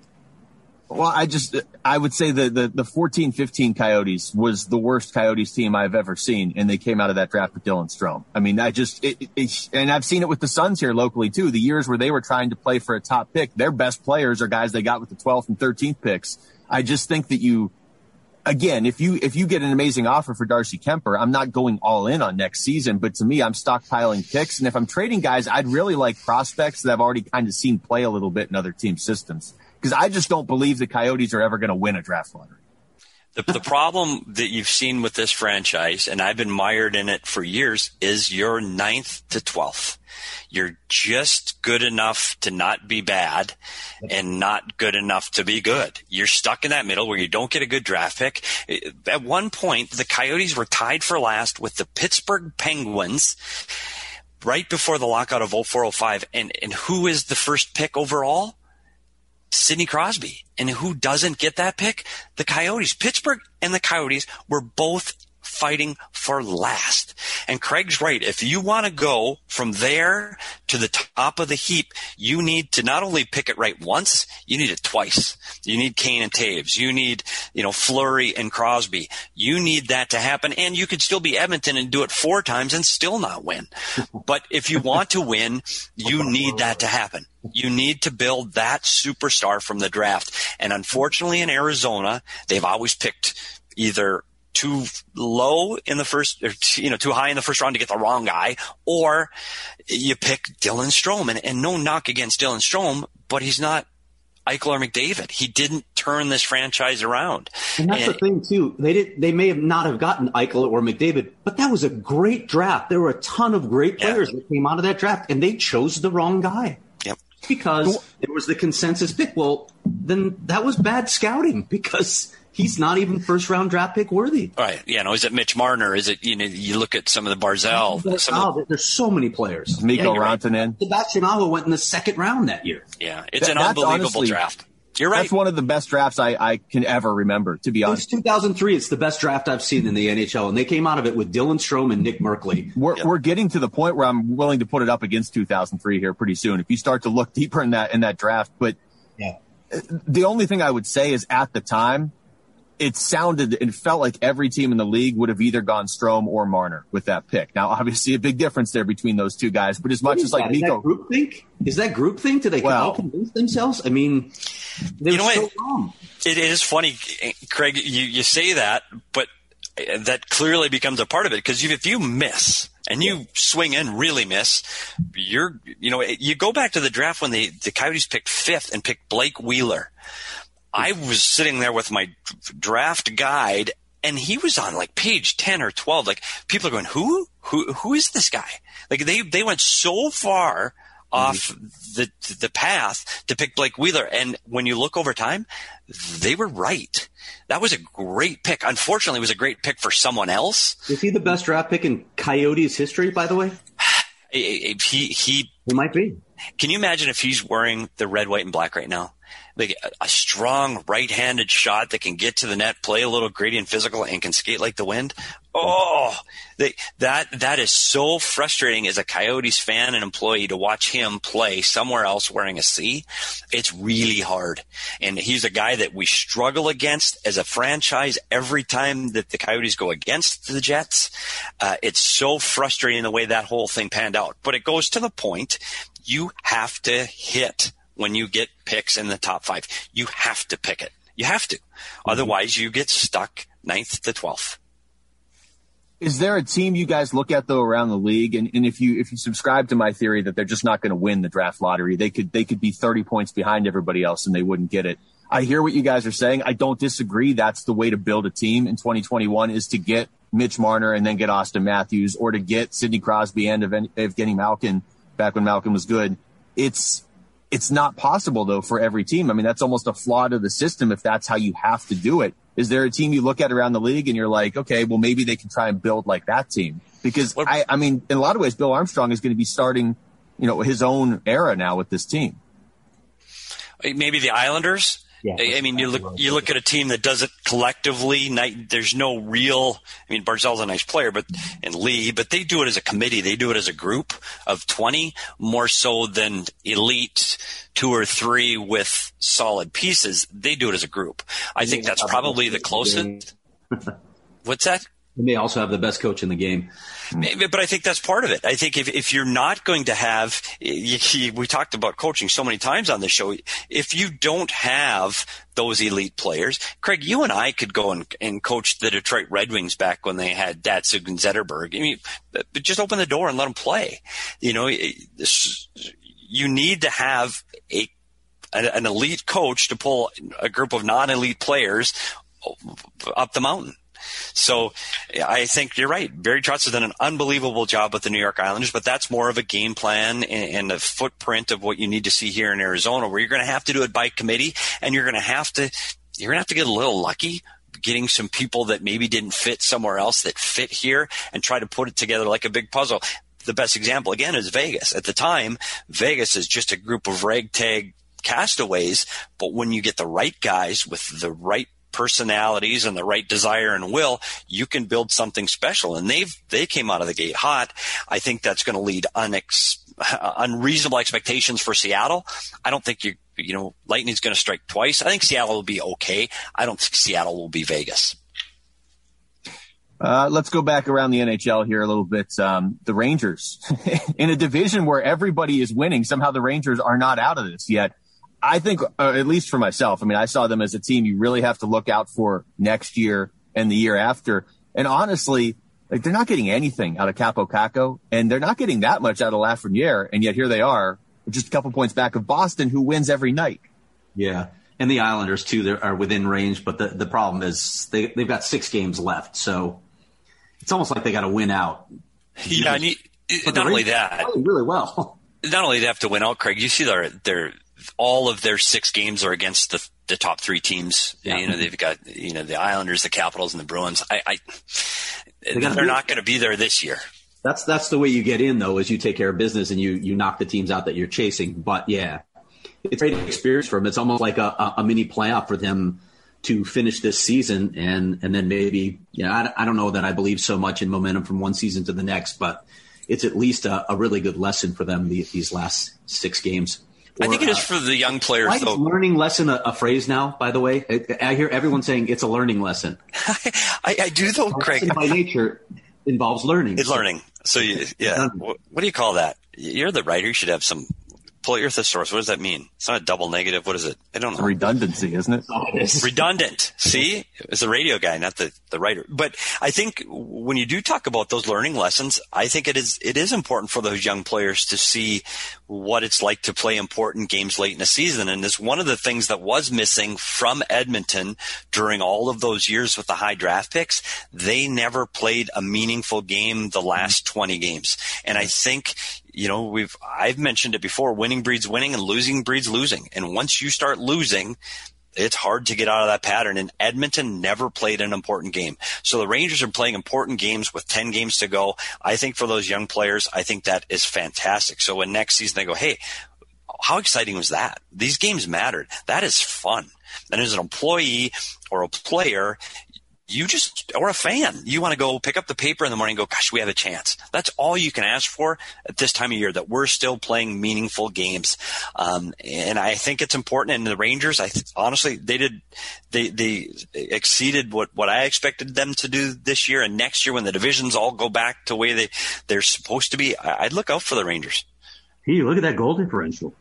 Well, I just, I would say the, the, the fourteen fifteen Coyotes was the worst Coyotes team I've ever seen, and they came out of that draft with Dylan Strome. I mean, I just, it, it, and I've seen it with the Suns here locally too. The years where they were trying to play for a top pick, their best players are guys they got with the twelfth and thirteenth picks. I just think that you, again, if you, if you get an amazing offer for Darcy Kuemper, I'm not going all in on next season, but to me, I'm stockpiling picks. And if I'm trading guys, I'd really like prospects that I've already kind of seen play a little bit in other team systems. Because I just don't believe the Coyotes are ever going to win a draft lottery. The, the problem that you've seen with this franchise, and I've been mired in it for years, is you're ninth to twelfth. You're just good enough to not be bad and not good enough to be good. You're stuck in that middle where you don't get a good draft pick. At one point, the Coyotes were tied for last with the Pittsburgh Penguins right before the lockout of oh four oh five. And, and who is the first pick overall? Sidney Crosby. And who doesn't get that pick? The Coyotes. Pittsburgh and the Coyotes were both fighting for last. And Craig's right. If you want to go from there to the top of the heap, you need to not only pick it right once, you need it twice. You need Kane and Taves. You need, you know, Fleury and Crosby. You need that to happen. And you could still be Edmonton and do it four times and still not win. But if you want to win, you need that to happen. You need to build that superstar from the draft. And unfortunately in Arizona, they've always picked either too low in the first, or, you know, too high in the first round to get the wrong guy, or you pick Dylan Strome. And, and no knock against Dylan Strome, but he's not Eichel or McDavid. He didn't turn this franchise around. And that's and, the thing too. They did. They may have not have gotten Eichel or McDavid, but that was a great draft. There were a ton of great players yeah. that came out of that draft, and they chose the wrong guy. Yep. Because it was the consensus pick. Well, then that was bad scouting, because he's not even first round draft pick worthy. Right. You know, is it Mitch Marner? Is it, you know, you look at some of the Barzell. There's, some oh, of the, there's so many players. Mikko yeah, Rantanen. Right. Sebastian Aho went in the second round that year. Yeah. It's that, an unbelievable honestly, draft. You're right. That's one of the best drafts I, I can ever remember, to be honest. It's two thousand three. It's the best draft I've seen in the N H L, and they came out of it with Dylan Strome and Nick Merkley. We're, yep. we're getting to the point where I'm willing to put it up against two thousand three here pretty soon, if you start to look deeper in that in that draft. But yeah. the only thing I would say is at the time, it sounded and felt like every team in the league would have either gone Strome or Marner with that pick. Now, obviously, a big difference there between those two guys. But as much as like that? Mikko, is that groupthink? Is that groupthink? Do they well, all convince themselves? I mean, they're you know so what? wrong. It is funny, Craig. You you say that, but that clearly becomes a part of it, because if you miss and you swing and really miss, you're, you know, you go back to the draft when they, the Coyotes picked fifth and picked Blake Wheeler. I was sitting there with my draft guide, and he was on like page ten or twelve. Like, people are going, who, who, who is this guy? Like, they, they went so far off the the path to pick Blake Wheeler. And when you look over time, they were right. That was a great pick. Unfortunately, it was a great pick for someone else. Is he the best draft pick in Coyotes history, by the way? He, he, he, he might be. Can you imagine if he's wearing the red, white, and black right now? Like a, a strong right-handed shot that can get to the net, play a little gritty and physical, and can skate like the wind. Oh, they, that that is so frustrating as a Coyotes fan and employee to watch him play somewhere else wearing a C. It's really hard. And he's a guy that we struggle against as a franchise every time that the Coyotes go against the Jets. Uh, it's so frustrating the way that whole thing panned out. But it goes to the point, you have to hit when you get picks in the top five. You have to pick it. You have to. Otherwise, you get stuck ninth to twelfth. Is there a team you guys look at, though, around the league? And, and if you if you subscribe to my theory that they're just not going to win the draft lottery, they could they could be thirty points behind everybody else and they wouldn't get it. I hear what you guys are saying. I don't disagree. That's the way to build a team in twenty twenty-one, is to get Mitch Marner and then get Austin Matthews, or to get Sidney Crosby and Evgeny Malkin back when Malkin was good. It's It's not possible, though, for every team. I mean, that's almost a flaw to the system if that's how you have to do it. Is there a team you look at around the league and you're like, okay, well, maybe they can try and build like that team? Because, I, I mean, in a lot of ways, Bill Armstrong is going to be starting, you know, his own era now with this team. Maybe the Islanders? Yeah, I mean, you look you look at a team that does it collectively. There's no real. I mean, Barzal's a nice player, but and Lee, but they do it as a committee. They do it as a group of twenty, more so than elite two or three with solid pieces. They do it as a group. I think that's probably the closest. What's that? And they also have the best coach in the game. But I think that's part of it. I think if, if you're not going to have, you, we talked about coaching so many times on the show, if you don't have those elite players, Craig, you and I could go and, and coach the Detroit Red Wings back when they had Datsuk and Zetterberg. I mean, just open the door and let them play. You know, you need to have a an elite coach to pull a group of non-elite players up the mountain. So I think you're right. Barry Trotz has done an unbelievable job with the New York Islanders, but that's more of a game plan and, and a footprint of what you need to see here in Arizona, where you're going to have to do it by committee, and you're going to have to you're going to have to get a little lucky getting some people that maybe didn't fit somewhere else that fit here and try to put it together like a big puzzle. The best example, again, is Vegas. At the time, Vegas is just a group of ragtag castaways, but when you get the right guys with the right personalities and the right desire and will, you can build something special. And they've they came out of the gate hot. I think that's going to lead unex, unreasonable expectations for Seattle. I don't think you you know Lightning's going to strike twice. I think Seattle will be okay. I don't think Seattle will be Vegas. Uh, let's go back around the N H L here a little bit. Um, the Rangers, in a division where everybody is winning, somehow the Rangers are not out of this yet. I think, uh, at least for myself, I mean, I saw them as a team you really have to look out for next year and the year after. And honestly, like, they're not getting anything out of Capo Caco, and they're not getting that much out of Lafreniere. And yet here they are, just a couple points back of Boston, who wins every night. Yeah. And the Islanders, too, they are within range. But the, the problem is they, they've got six games left. So it's almost like they got to win out. Yeah. And you, not only that, really well. Not only do they have to win out, Craig, you see their, their, all of their six games are against the, the top three teams. Yeah. You know, they've got, you know, the Islanders, the Capitals, and the Bruins. I, I they they're not going to be there this year. That's, that's the way you get in, though, is you take care of business and you, you knock the teams out that you're chasing. But yeah, it's a great experience for them. It's almost like a, a mini playoff for them to finish this season. And, and then maybe, you know, I, I don't know that I believe so much in momentum from one season to the next, but it's at least a, a really good lesson for them the, these last six games. Or, I think it is for the young players. Why though. Is learning lesson a, a phrase now, by the way? I, I hear everyone saying it's a learning lesson. I, I do, though, Craig. By nature involves learning. It's learning. So, you, yeah. What, what do you call that? You're the writer. You should have some Pull your thesaurus. What does that mean? It's not a double negative. What is it? I don't know. Redundancy, isn't it? Oh, it is. Redundant. See? It's the radio guy, not the, the writer. But I think when you do talk about those learning lessons, I think it is it is important for those young players to see what it's like to play important games late in the season. And it's one of the things that was missing from Edmonton during all of those years with the high draft picks. They never played a meaningful game the last twenty games. And I think, you know, we've I've mentioned it before, winning breeds winning and losing breeds losing. And once you start losing, it's hard to get out of that pattern. And Edmonton never played an important game. So the Rangers are playing important games with ten games to go. I think for those young players, I think that is fantastic. So when next season they go, hey, how exciting was that? These games mattered. That is fun. And as an employee or a player, you just, or a fan, you want to go pick up the paper in the morning and go, gosh, we have a chance. That's all you can ask for at this time of year, that we're still playing meaningful games. Um, and I think it's important. And the Rangers, I th- honestly, they did, they, they exceeded what, what I expected them to do this year. And next year, when the divisions all go back to the way they, they're supposed to be, I, I'd look out for the Rangers. Hey, look at that goal differential.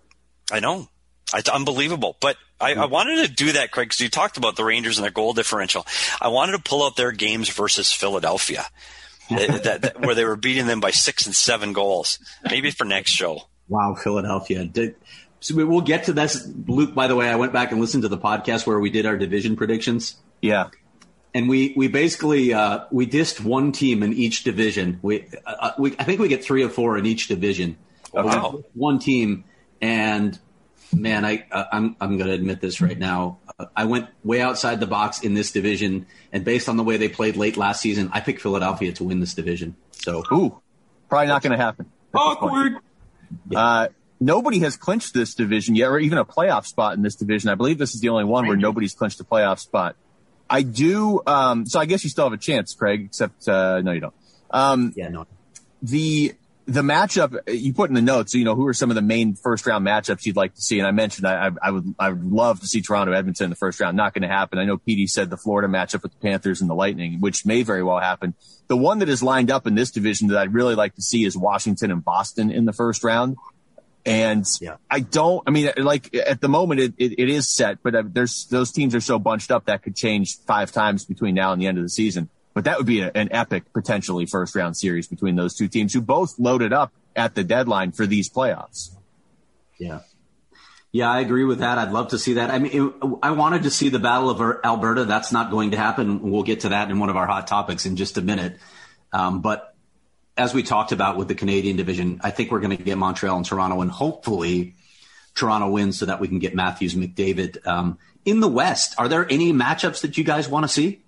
I know. It's unbelievable. But I, I wanted to do that, Craig, because you talked about the Rangers and their goal differential. I wanted to pull out their games versus Philadelphia, that, that, that, where they were beating them by six and seven goals. Maybe for next show. Wow, Philadelphia. Did, so we'll get to this. Luke, by the way, I went back and listened to the podcast where we did our division predictions. Yeah. And we, we basically uh, we dissed one team in each division. We, uh, we I think we get three or four in each division. Wow. One team. And man, I, I'm I'm going to admit this right now. I went way outside the box in this division, and based on the way they played late last season, I picked Philadelphia to win this division. So, ooh, probably not going to happen. Awkward. Yeah. Uh, nobody has clinched this division yet, or even a playoff spot in this division. I believe this is the only one where nobody's clinched a playoff spot. I do. Um, so I guess you still have a chance, Craig. Except uh, no, you don't. Um, yeah, no. The The matchup you put in the notes, you know, who are some of the main first round matchups you'd like to see? And I mentioned I, I would I would love to see Toronto Edmonton in the first round. Not going to happen. I know P D said the Florida matchup with the Panthers and the Lightning, which may very well happen. The one that is lined up in this division that I'd really like to see is Washington and Boston in the first round. And yeah. I don't, I mean, like at the moment it, it, it is set, but there's those teams are so bunched up that could change five times between now and the end of the season. But that would be a, an epic, potentially first-round series between those two teams who both loaded up at the deadline for these playoffs. Yeah. Yeah, I agree with that. I'd love to see that. I mean, it, I wanted to see the Battle of Alberta. That's not going to happen. We'll get to that in one of our hot topics in just a minute. Um, but as we talked about with the Canadian division, I think we're going to get Montreal and Toronto, and hopefully Toronto wins so that we can get Matthews, McDavid. Um, in the West, are there any matchups that you guys want to see?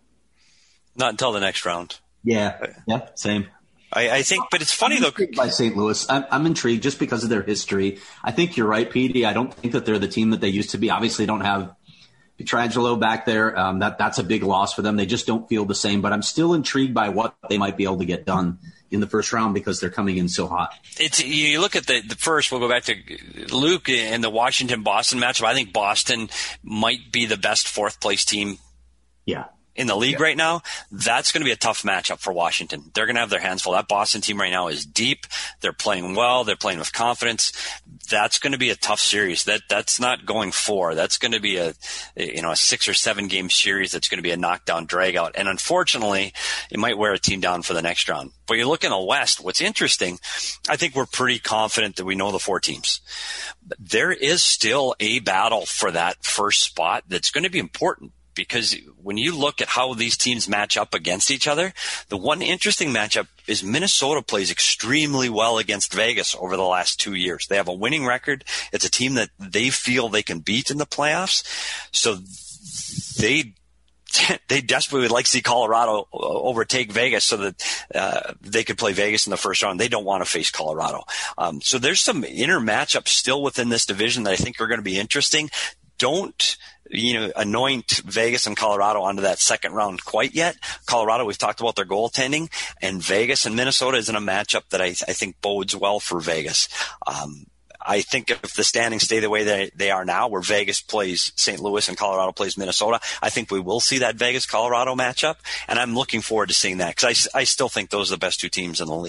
Not until the next round. Yeah, yeah, same. I, I think, but it's funny though. By Saint Louis, I'm, I'm intrigued just because of their history. I think you're right, P D. I don't think that they're the team that they used to be. Obviously, don't have Pietrangelo back there. Um, that that's a big loss for them. They just don't feel the same. But I'm still intrigued by what they might be able to get done in the first round because they're coming in so hot. It's you look at the, the first. We'll go back to Luke and the Washington-Boston matchup. I think Boston might be the best fourth place team. Yeah. In the league yeah. right now, that's going to be a tough matchup for Washington. They're going to have their hands full. That Boston team right now is deep. They're playing well. They're playing with confidence. That's going to be a tough series. That that's not going four. That's going to be a you know a six or seven game series. That's going to be a knockdown drag out. And unfortunately, it might wear a team down for the next round. But you look in the West. What's interesting, I think we're pretty confident that we know the four teams. There is still a battle for that first spot that's going to be important. Because when you look at how these teams match up against each other, the one interesting matchup is Minnesota plays extremely well against Vegas over the last two years. They have a winning record. It's a team that they feel they can beat in the playoffs. So they they desperately would like to see Colorado overtake Vegas so that uh, they could play Vegas in the first round. They don't want to face Colorado. Um, so there's some inner matchups still within this division that I think are going to be interesting. Don't you know, anoint Vegas and Colorado onto that second round quite yet. Colorado, we've talked about their goaltending, and Vegas and Minnesota is in a matchup that I, I think bodes well for Vegas. Um, I think if the standings stay the way they, they are now, where Vegas plays Saint Louis and Colorado plays Minnesota, I think we will see that Vegas-Colorado matchup, and I'm looking forward to seeing that because I, I still think those are the best two teams in the league.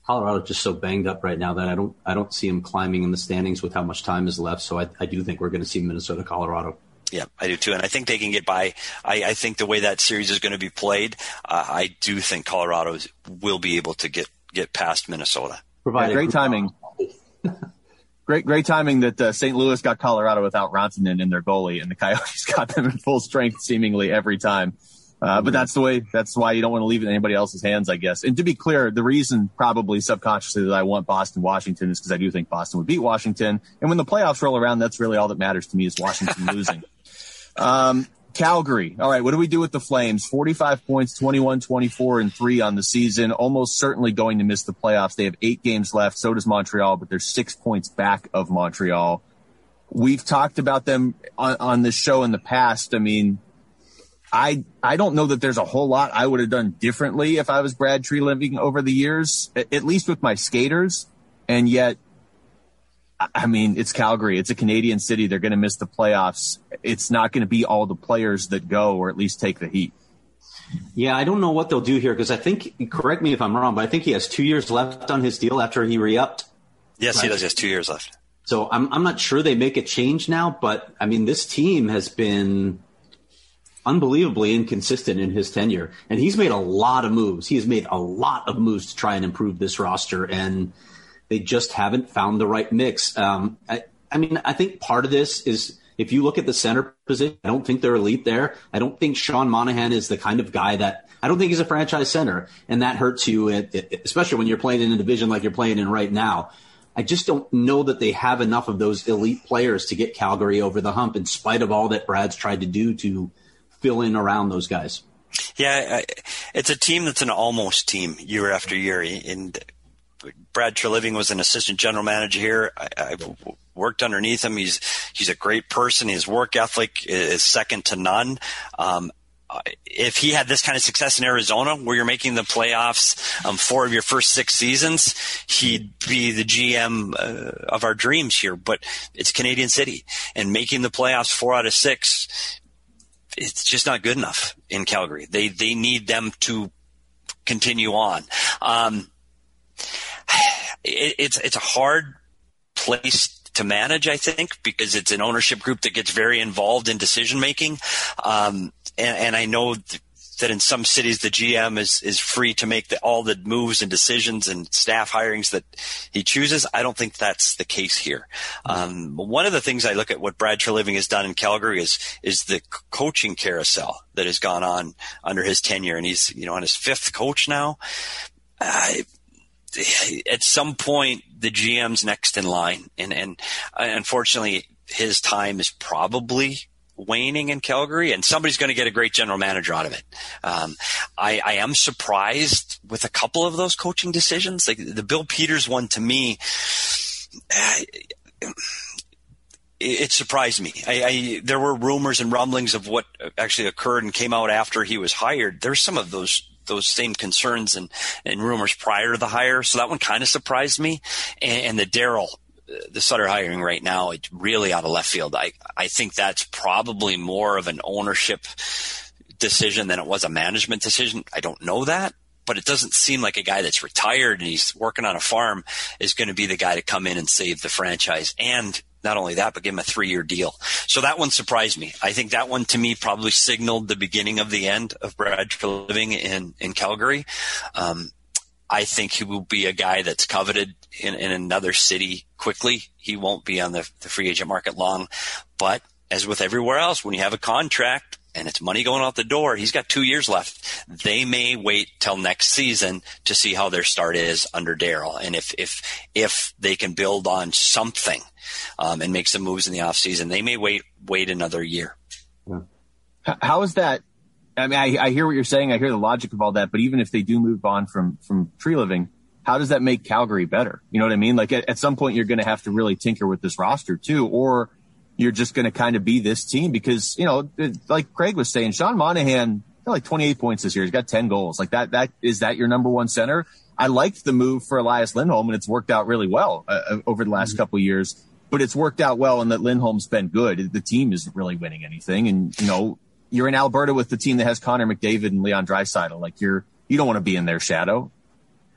Colorado's just so banged up right now that I don't I don't see them climbing in the standings with how much time is left. So I, I do think we're going to see Minnesota, Colorado. Yeah, I do too. And I think they can get by. I, I think the way that series is going to be played, uh, I do think Colorado will be able to get, get past Minnesota. Yeah, great timing. great, great timing that uh, Saint Louis got Colorado without Rantanen in their goalie, and the Coyotes got them in full strength seemingly every time. Uh, but that's the way, that's why you don't want to leave it in anybody else's hands, I guess. And to be clear, the reason probably subconsciously that I want Boston, Washington is because I do think Boston would beat Washington. And when the playoffs roll around, that's really all that matters to me is Washington losing. Um, Calgary. All right. What do we do with the Flames? forty-five points, twenty-one, twenty-four, and three on the season. Almost certainly going to miss the playoffs. They have eight games left. So does Montreal, but they're six points back of Montreal. We've talked about them on, on this show in the past. I mean, I I don't know that there's a whole lot I would have done differently if I was Brad Treliving over the years, at least with my skaters. And yet, I mean, it's Calgary. It's a Canadian city. They're going to miss the playoffs. It's not going to be all the players that go or at least take the heat. Yeah, I don't know what they'll do here because I think, correct me if I'm wrong, but I think he has two years left on his deal after he re-upped. Yes, right? He does. He has two years left. So I'm I'm not sure they make a change now, but I mean, this team has been unbelievably inconsistent in his tenure. And he's made a lot of moves. He has made a lot of moves to try and improve this roster, and they just haven't found the right mix. Um, I, I mean, I think part of this is if you look at the center position, I don't think they're elite there. I don't think Sean Monahan is the kind of guy that – I don't think he's a franchise center, and that hurts you, at, at, especially when you're playing in a division like you're playing in right now. I just don't know that they have enough of those elite players to get Calgary over the hump in spite of all that Brad's tried to do to – fill in around those guys. Yeah, it's a team that's an almost team year after year. And Brad Treliving was an assistant general manager here. I, I've worked underneath him. He's he's a great person. His work ethic is second to none. Um, if he had this kind of success in Arizona, where you're making the playoffs um, four of your first six seasons, he'd be the G M uh, of our dreams here. But it's Canadian City, and making the playoffs four out of six, it's just not good enough in Calgary. They they need them to continue on. Um, it, it's it's a hard place to manage, I think, because it's an ownership group that gets very involved in decision making. Um, and, and I know th- that in some cities the G M is is free to make the, all the moves and decisions and staff hirings that he chooses. I don't think that's the case here. Um, one of the things I look at what Brad Treliving has done in Calgary is is the coaching carousel that has gone on under his tenure, and he's you know on his fifth coach now. Uh, at some point, the G M's next in line, and and uh, unfortunately, his time is probably waning in Calgary, and somebody's going to get a great general manager out of it. Um, I, I am surprised with a couple of those coaching decisions. Like the Bill Peters one, to me, it, it surprised me. I, I, there were rumors and rumblings of what actually occurred and came out after he was hired. There's some of those those same concerns and, and rumors prior to the hire, so that one kind of surprised me. And, and the Darryl the Sutter hiring right now, it's really out of left field. I, I think that's probably more of an ownership decision than it was a management decision. I don't know that, but it doesn't seem like a guy that's retired and he's working on a farm is going to be the guy to come in and save the franchise. And not only that, but give him a three-year deal. So that one surprised me. I think that one, to me, probably signaled the beginning of the end of Brad Treliving in, in Calgary. Um, I think he will be a guy that's coveted in, in another city quickly. He won't be on the, the free agent market long. But as with everywhere else, when you have a contract and it's money going out the door, he's got two years left. They may wait till next season to see how their start is under Darryl. And if if if they can build on something um, and make some moves in the offseason, they may wait wait another year. How is that? I mean, I, I hear what you're saying. I hear the logic of all that. But even if they do move on from, from Treliving, how does that make Calgary better? You know what I mean? Like at, at some point, you're going to have to really tinker with this roster too, or you're just going to kind of be this team because, you know, it, like Craig was saying, Sean Monahan, like twenty-eight points this year. He's got ten goals. Like that, that is that your number one center? I liked the move for Elias Lindholm, and it's worked out really well uh, over the last mm-hmm. couple of years. But it's worked out well in that Lindholm's been good. The team isn't really winning anything. And, you know, you're in Alberta with the team that has Connor McDavid and Leon Draisaitl. Like you're, you don't want to be in their shadow.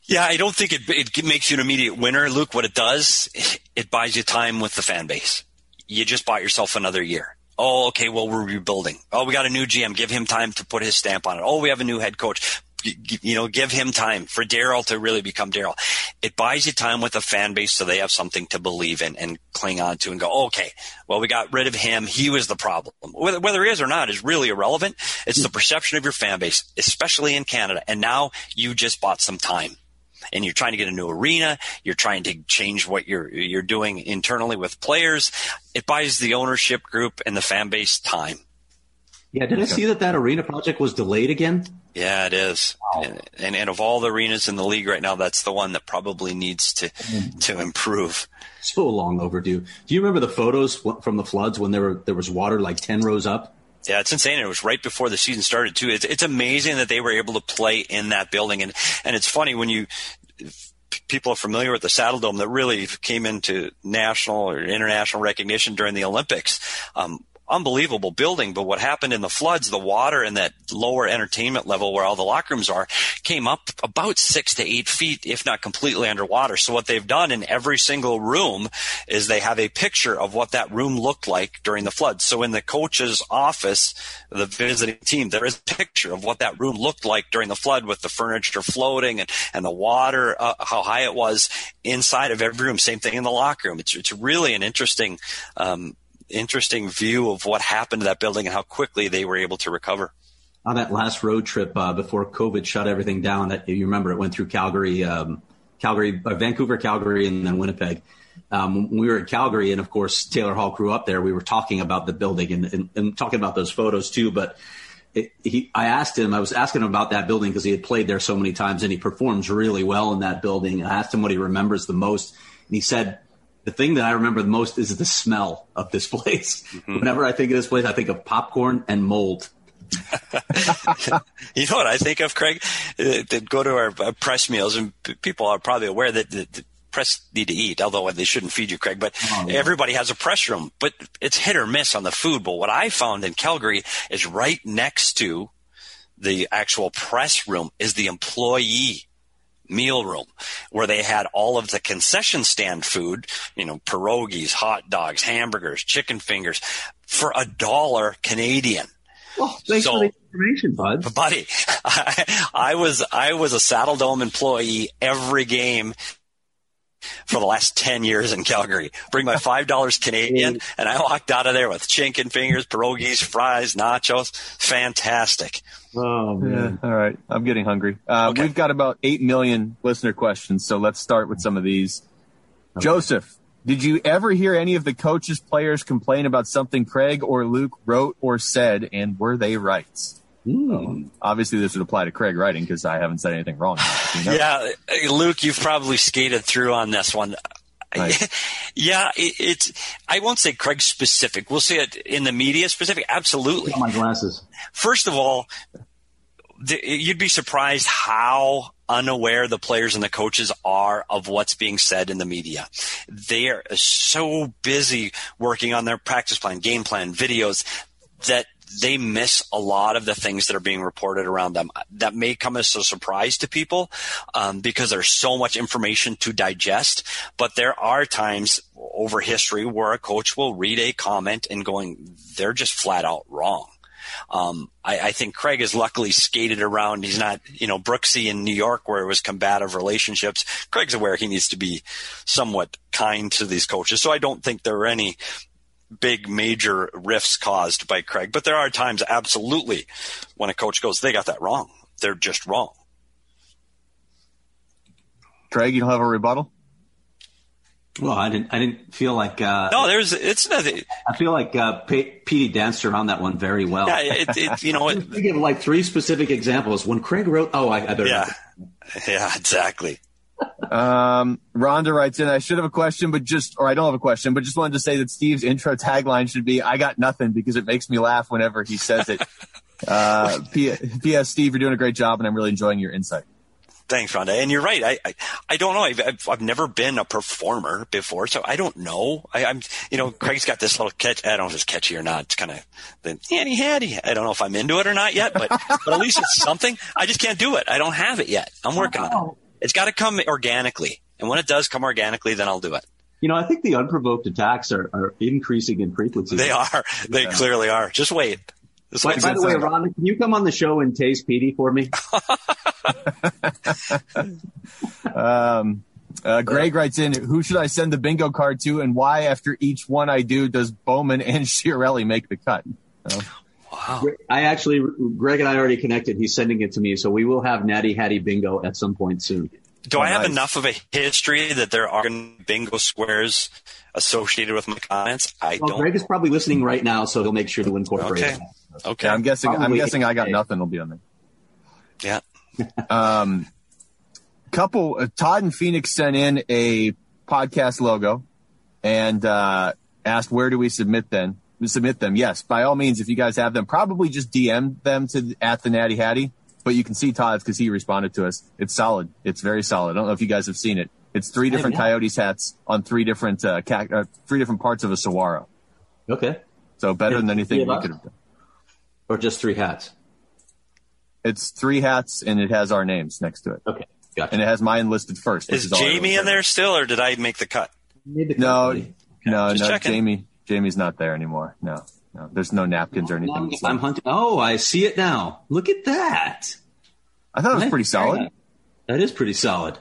Yeah, I don't think it, it makes you an immediate winner, Luke. What it does, it buys you time with the fan base. You just bought yourself another year. Oh, okay, well, we're rebuilding. Oh, we got a new G M. Give him time to put his stamp on it. Oh, we have a new head coach. You know, give him time for Daryl to really become Daryl. It buys you time with the fan base so they have something to believe in and cling on to and go, okay, well, we got rid of him. He was the problem. Whether, whether he is or not is really irrelevant. It's the perception of your fan base, especially in Canada. And now you just bought some time. And you're trying to get a new arena. You're trying to change what you're you're doing internally with players. It buys the ownership group and the fan base time. Yeah, did I see that that arena project was delayed again? Yeah, it is. Wow. And, and and of all the arenas in the league right now, that's the one that probably needs to to improve. So long overdue. Do you remember the photos from the floods when there were there was water like ten rows up? Yeah, it's insane. It was right before the season started, too. It's, it's amazing that they were able to play in that building. And, and it's funny when you people are familiar with the Saddle Dome that really came into national or international recognition during the Olympics. Um, unbelievable building. But what happened in the floods, the water in that lower entertainment level where all the locker rooms are came up about six to eight feet, if not completely underwater. So what they've done in every single room is they have a picture of what that room looked like during the flood. So in the coach's office, the visiting team, there is a picture of what that room looked like during the flood with the furniture floating and, and the water, uh, how high it was inside of every room. Same thing in the locker room. It's, it's really an interesting, um, interesting view of what happened to that building and how quickly they were able to recover. On that last road trip uh, before COVID shut everything down, that you remember it went through Calgary, um, Calgary, uh, Vancouver, Calgary, and then Winnipeg. Um, when we were at Calgary, and of course Taylor Hall grew up there, we were talking about the building and, and, and talking about those photos too. But it, he, I asked him, I was asking him about that building because he had played there so many times and he performs really well in that building. I asked him what he remembers the most, and he said, the thing that I remember the most is the smell of this place. Mm-hmm. Whenever I think of this place, I think of popcorn and mold. You know what I think of, Craig? Uh, to go to our uh, press meals, and p- people are probably aware that the, the press need to eat, although they shouldn't feed you, Craig. But oh, yeah. Everybody has a press room, but it's hit or miss on the food. But what I found in Calgary is right next to the actual press room is the employee meal room where they had all of the concession stand food, you know, pierogies, hot dogs, hamburgers, chicken fingers for a dollar Canadian. Well, thanks so, for the information, bud. Buddy, I, I was I was a Saddle Dome employee every game for the last ten years in Calgary. Bring my five dollars Canadian, and I walked out of there with chicken fingers, pierogies, fries, nachos. Fantastic. Oh, man. Yeah, all right. I'm getting hungry. Uh, okay. We've got about eight million listener questions, so let's start with some of these. Okay. Joseph, did you ever hear any of the coaches, players complain about something Craig or Luke wrote or said, and were they right? Um, obviously, this would apply to Craig writing because I haven't said anything wrong. You know? Yeah, Luke, you've probably skated through on this one. Nice. Yeah, it, it's. I won't say Craig specific. We'll say it in the media specific. Absolutely. My glasses. First of all, the, you'd be surprised how unaware the players and the coaches are of what's being said in the media. They are so busy working on their practice plan, game plan, videos that they miss a lot of the things that are being reported around them. That may come as a surprise to people um, because there's so much information to digest. But there are times over history where a coach will read a comment and going, they're just flat out wrong. Um, I, I think Craig has luckily skated around. He's not, you know, Brooksy in New York where it was combative relationships. Craig's aware he needs to be somewhat kind to these coaches. So I don't think there are any big major rifts caused by Craig, but there are times absolutely when a coach goes, they got that wrong. They're just wrong. Craig, you don't have a rebuttal? Well, I didn't, I didn't feel like, uh, no, there's, it's nothing. I feel like, uh, P- Petey danced around that one very well. Yeah. It, it, you know, it, give like three specific examples when Craig wrote, oh, I, I better. Yeah. Yeah, exactly. Um, Rhonda writes in, I should have a question, but just, or I don't have a question, but just wanted to say that Steve's intro tagline should be, I got nothing, because it makes me laugh whenever he says it. uh, P S Steve, you're doing a great job and I'm really enjoying your insight. Thanks, Rhonda. And you're right. I, I, I don't know. I've, I've, I've never been a performer before, so I don't know. I, I'm, you know, Craig's got this little catch. I don't know if it's catchy or not. It's kind of the handy handy. I don't know if I'm into it or not yet, but, but at least it's something. I just can't do it. I don't have it yet. I'm working on it. It's got to come organically. And when it does come organically, then I'll do it. You know, I think the unprovoked attacks are, are increasing in frequency. They are. They yeah. clearly are. Just wait. Just wait. By, by the way, Ron, can you come on the show and tase Petey for me? um, uh, Greg writes in, who should I send the bingo card to, and why after each one I do does Bowman and Chiarelli make the cut? Oh. Wow. I actually, Greg and I already connected. He's sending it to me, so we will have Natty Hattie bingo at some point soon. Do oh, I have nice. enough of a history that there are bingo squares associated with my comments? I well, don't. Greg is probably listening right now, so he'll make sure to incorporate okay. it. Okay. Yeah, I'm guessing. Probably I'm guessing I got nothing. Will be on there. Yeah. um, couple. Uh, Todd and Phoenix sent in a podcast logo and uh, asked where do we submit them. Submit them. Yes, by all means, if you guys have them, probably just D M them to at the Natty Hattie. But you can see Todd's because he responded to us. It's solid. It's very solid. I don't know if you guys have seen it. It's three different Coyotes hats on three different uh, ca- uh, three different parts of a saguaro. Okay. So better than anything we could have done. Or just three hats? It's three hats, and it has our names next to it. Okay, gotcha. And it has mine listed first. Is, is Jamie in there still, or did I make the cut? The cut no, okay. no, Just no. checking. Jamie, Jamie's not there anymore. No, no. There's no napkins or anything. I'm, I'm hunting. Oh, I see it now. Look at that. I thought it was pretty solid. That is pretty solid.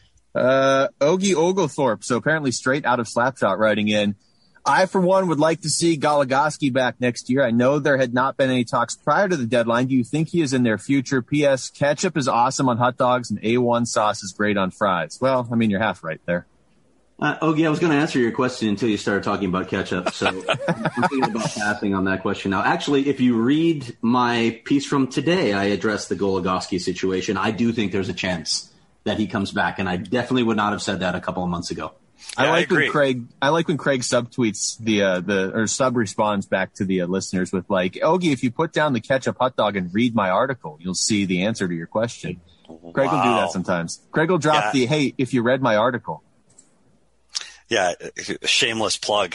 Uh, Ogie Oglethorpe, so apparently straight out of Slapshot writing in, I, for one, would like to see Goligoski back next year. I know there had not been any talks prior to the deadline. Do you think he is in their future? P S. Ketchup is awesome on hot dogs and A one sauce is great on fries. Well, I mean, you're half right there. Uh, Ogie, I was going to answer your question until you started talking about ketchup, so I'm thinking about passing on that question now. Actually, if you read my piece from today, I addressed the Goligoski situation. I do think there's a chance that he comes back, and I definitely would not have said that a couple of months ago. I Yeah, like I when Craig. I like when Craig subtweets the uh, the or sub responds back to the uh, listeners with like, Ogie, if you put down the ketchup hot dog and read my article, you'll see the answer to your question. Craig Wow. will do that sometimes. Craig will drop Yeah. the hey, if you read my article. Yeah, shameless plug.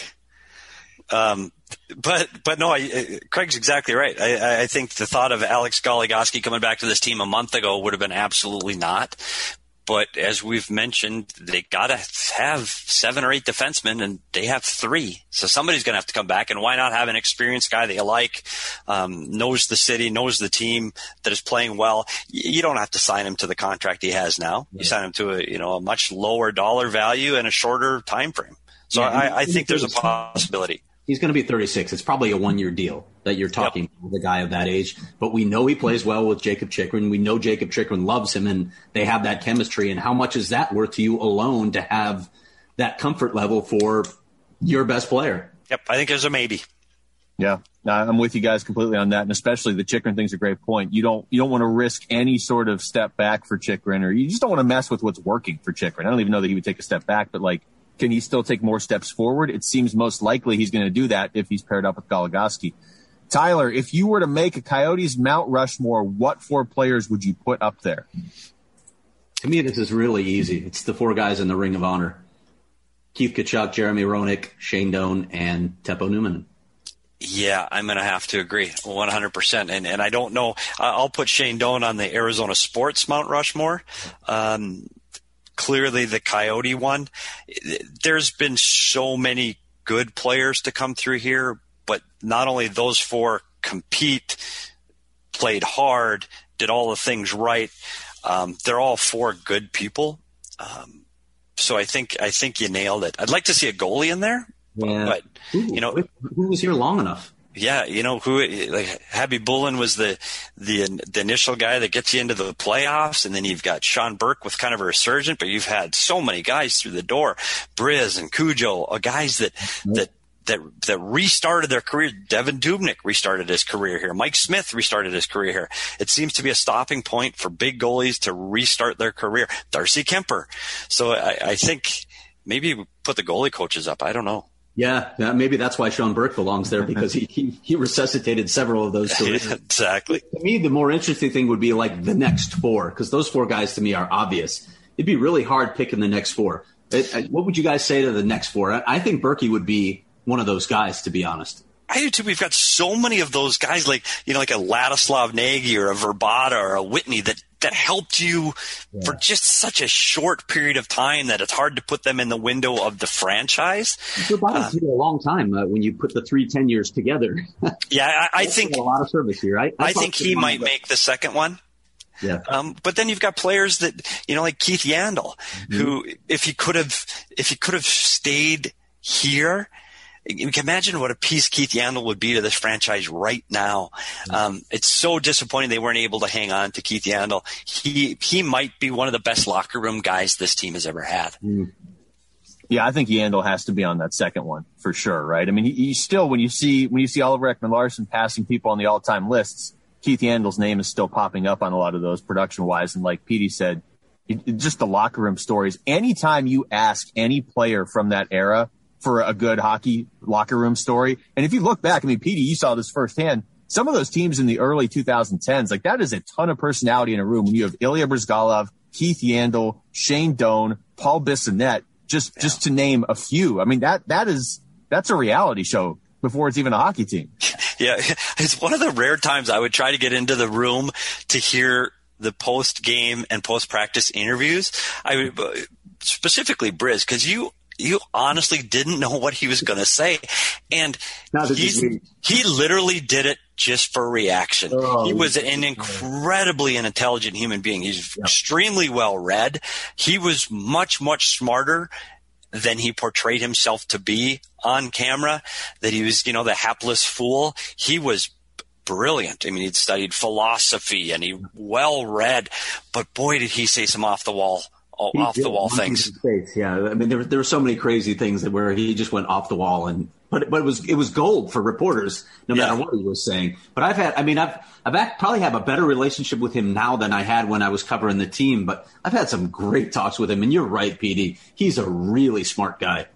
Um, but but no, I, Craig's exactly right. I, I think the thought of Alex Goligoski coming back to this team a month ago would have been absolutely not. But as we've mentioned, they got to have seven or eight defensemen, and they have three. So somebody's going to have to come back, and why not have an experienced guy that you like, um, knows the city, knows the team, that is playing well. You don't have to sign him to the contract he has now. You sign him to a you know a much lower dollar value and a shorter time frame. So Yeah, I, I think there's a possibility. He's going to be thirty-six. It's probably a one-year deal that you're talking Yep. with a guy of that age. But we know he plays well with Jacob Chychrun. We know Jacob Chychrun loves him, and they have that chemistry. And how much is that worth to you alone to have that comfort level for your best player? Yep, I think there's a maybe. Yeah, I'm with you guys completely on that, and especially the Chychrun thing's a great point. You don't you don't want to risk any sort of step back for Chychrun, or you just don't want to mess with what's working for Chychrun. I don't even know that he would take a step back, but like, can he still take more steps forward? It seems most likely he's going to do that if he's paired up with Goligoski. Tyler, if you were to make a Coyotes Mount Rushmore, what four players would you put up there? To me, this is really easy. It's the four guys in the Ring of Honor. Keith Tkachuk, Jeremy Roenick, Shane Doan, and Teppo Numminen. Yeah, I'm going to have to agree one hundred percent. And and I don't know. I'll put Shane Doan on the Arizona Sports Mount Rushmore. Um, clearly the Coyote one. There's been so many good players to come through here, but not only those four compete, played hard, did all the things right. Um, they're all four good people. Um, so I think I think you nailed it. I'd like to see a goalie in there, Yeah. but you know, who was here long enough? yeah, you know who like Happy Bullen was the, the the initial guy that gets you into the playoffs, and then you've got Sean Burke with kind of a resurgent, but you've had so many guys through the door, Briz and Cujo, uh, guys that that that that restarted their career. Devin Dubnyk restarted his career here. Mike Smith restarted his career here. It seems to be a stopping point for big goalies to restart their career. Darcy Kemper. So I, I think maybe we put the goalie coaches up. I don't know. Yeah, yeah, maybe that's why Sean Burke belongs there, because he, he, he resuscitated several of those careers. Exactly. To me, the more interesting thing would be like the next four, because those four guys to me are obvious. It'd be really hard picking the next four. It, it, what would you guys say to the next four? I, I think Berkey would be one of those guys, to be honest. I do too. We've got so many of those guys, like you know, like a Ladislav Nagy or a Verbata or a Whitney that that helped you yeah. for just such a short period of time that it's hard to put them in the window of the franchise. Your body's uh, here a long time uh, when you put the three ten years together. yeah, I, I think a lot of service here. I, I think he might about. make the second one. Yeah. Um, but then you've got players that, you know, like Keith Yandle, mm-hmm. who, if he could have, if he could have stayed here, you can imagine what a piece Keith Yandle would be to this franchise right now. Mm-hmm. Um, it's so disappointing they weren't able to hang on to Keith Yandle. He, he might be one of the best locker room guys this team has ever had. Mm-hmm. Yeah, I think Yandle has to be on that second one for sure, right? I mean, he, he still, when you see, when you see Oliver Ekman-Larsson passing people on the all-time lists, Keith Yandle's name is still popping up on a lot of those production-wise. And like Petey said, it, just the locker room stories. Anytime you ask any player from that era for a good hockey locker room story, and if you look back, I mean, Petey, you saw this firsthand. Some of those teams in the early twenty tens, like that is a ton of personality in a room when you have Ilya Bryzgalov, Keith Yandle, Shane Doan, Paul Bissonnette, just, yeah. just to name a few. I mean, that, that is, that's a reality show before it's even a hockey team. Yeah, it's one of the rare times I would try to get into the room to hear the post-game and post-practice interviews. I would, specifically Briz, because you you honestly didn't know what he was going to say, and he's, he literally did it just for reaction. Oh, he was an incredibly intelligent human being. He's yeah. extremely well read. He was much much smarter than he portrayed himself to be on camera, that he was, you know, the hapless fool. He was brilliant. I mean, he'd studied philosophy and he well read, but boy, did he say some off the wall, off the wall things. Yeah. I mean, there were, there were so many crazy things that where he just went off the wall and, but, but it was, it was gold for reporters, no matter yeah. what he was saying. But I've had, I mean, I've, I've act, probably have a better relationship with him now than I had when I was covering the team, but I've had some great talks with him. And you're right, P D. He's a really smart guy.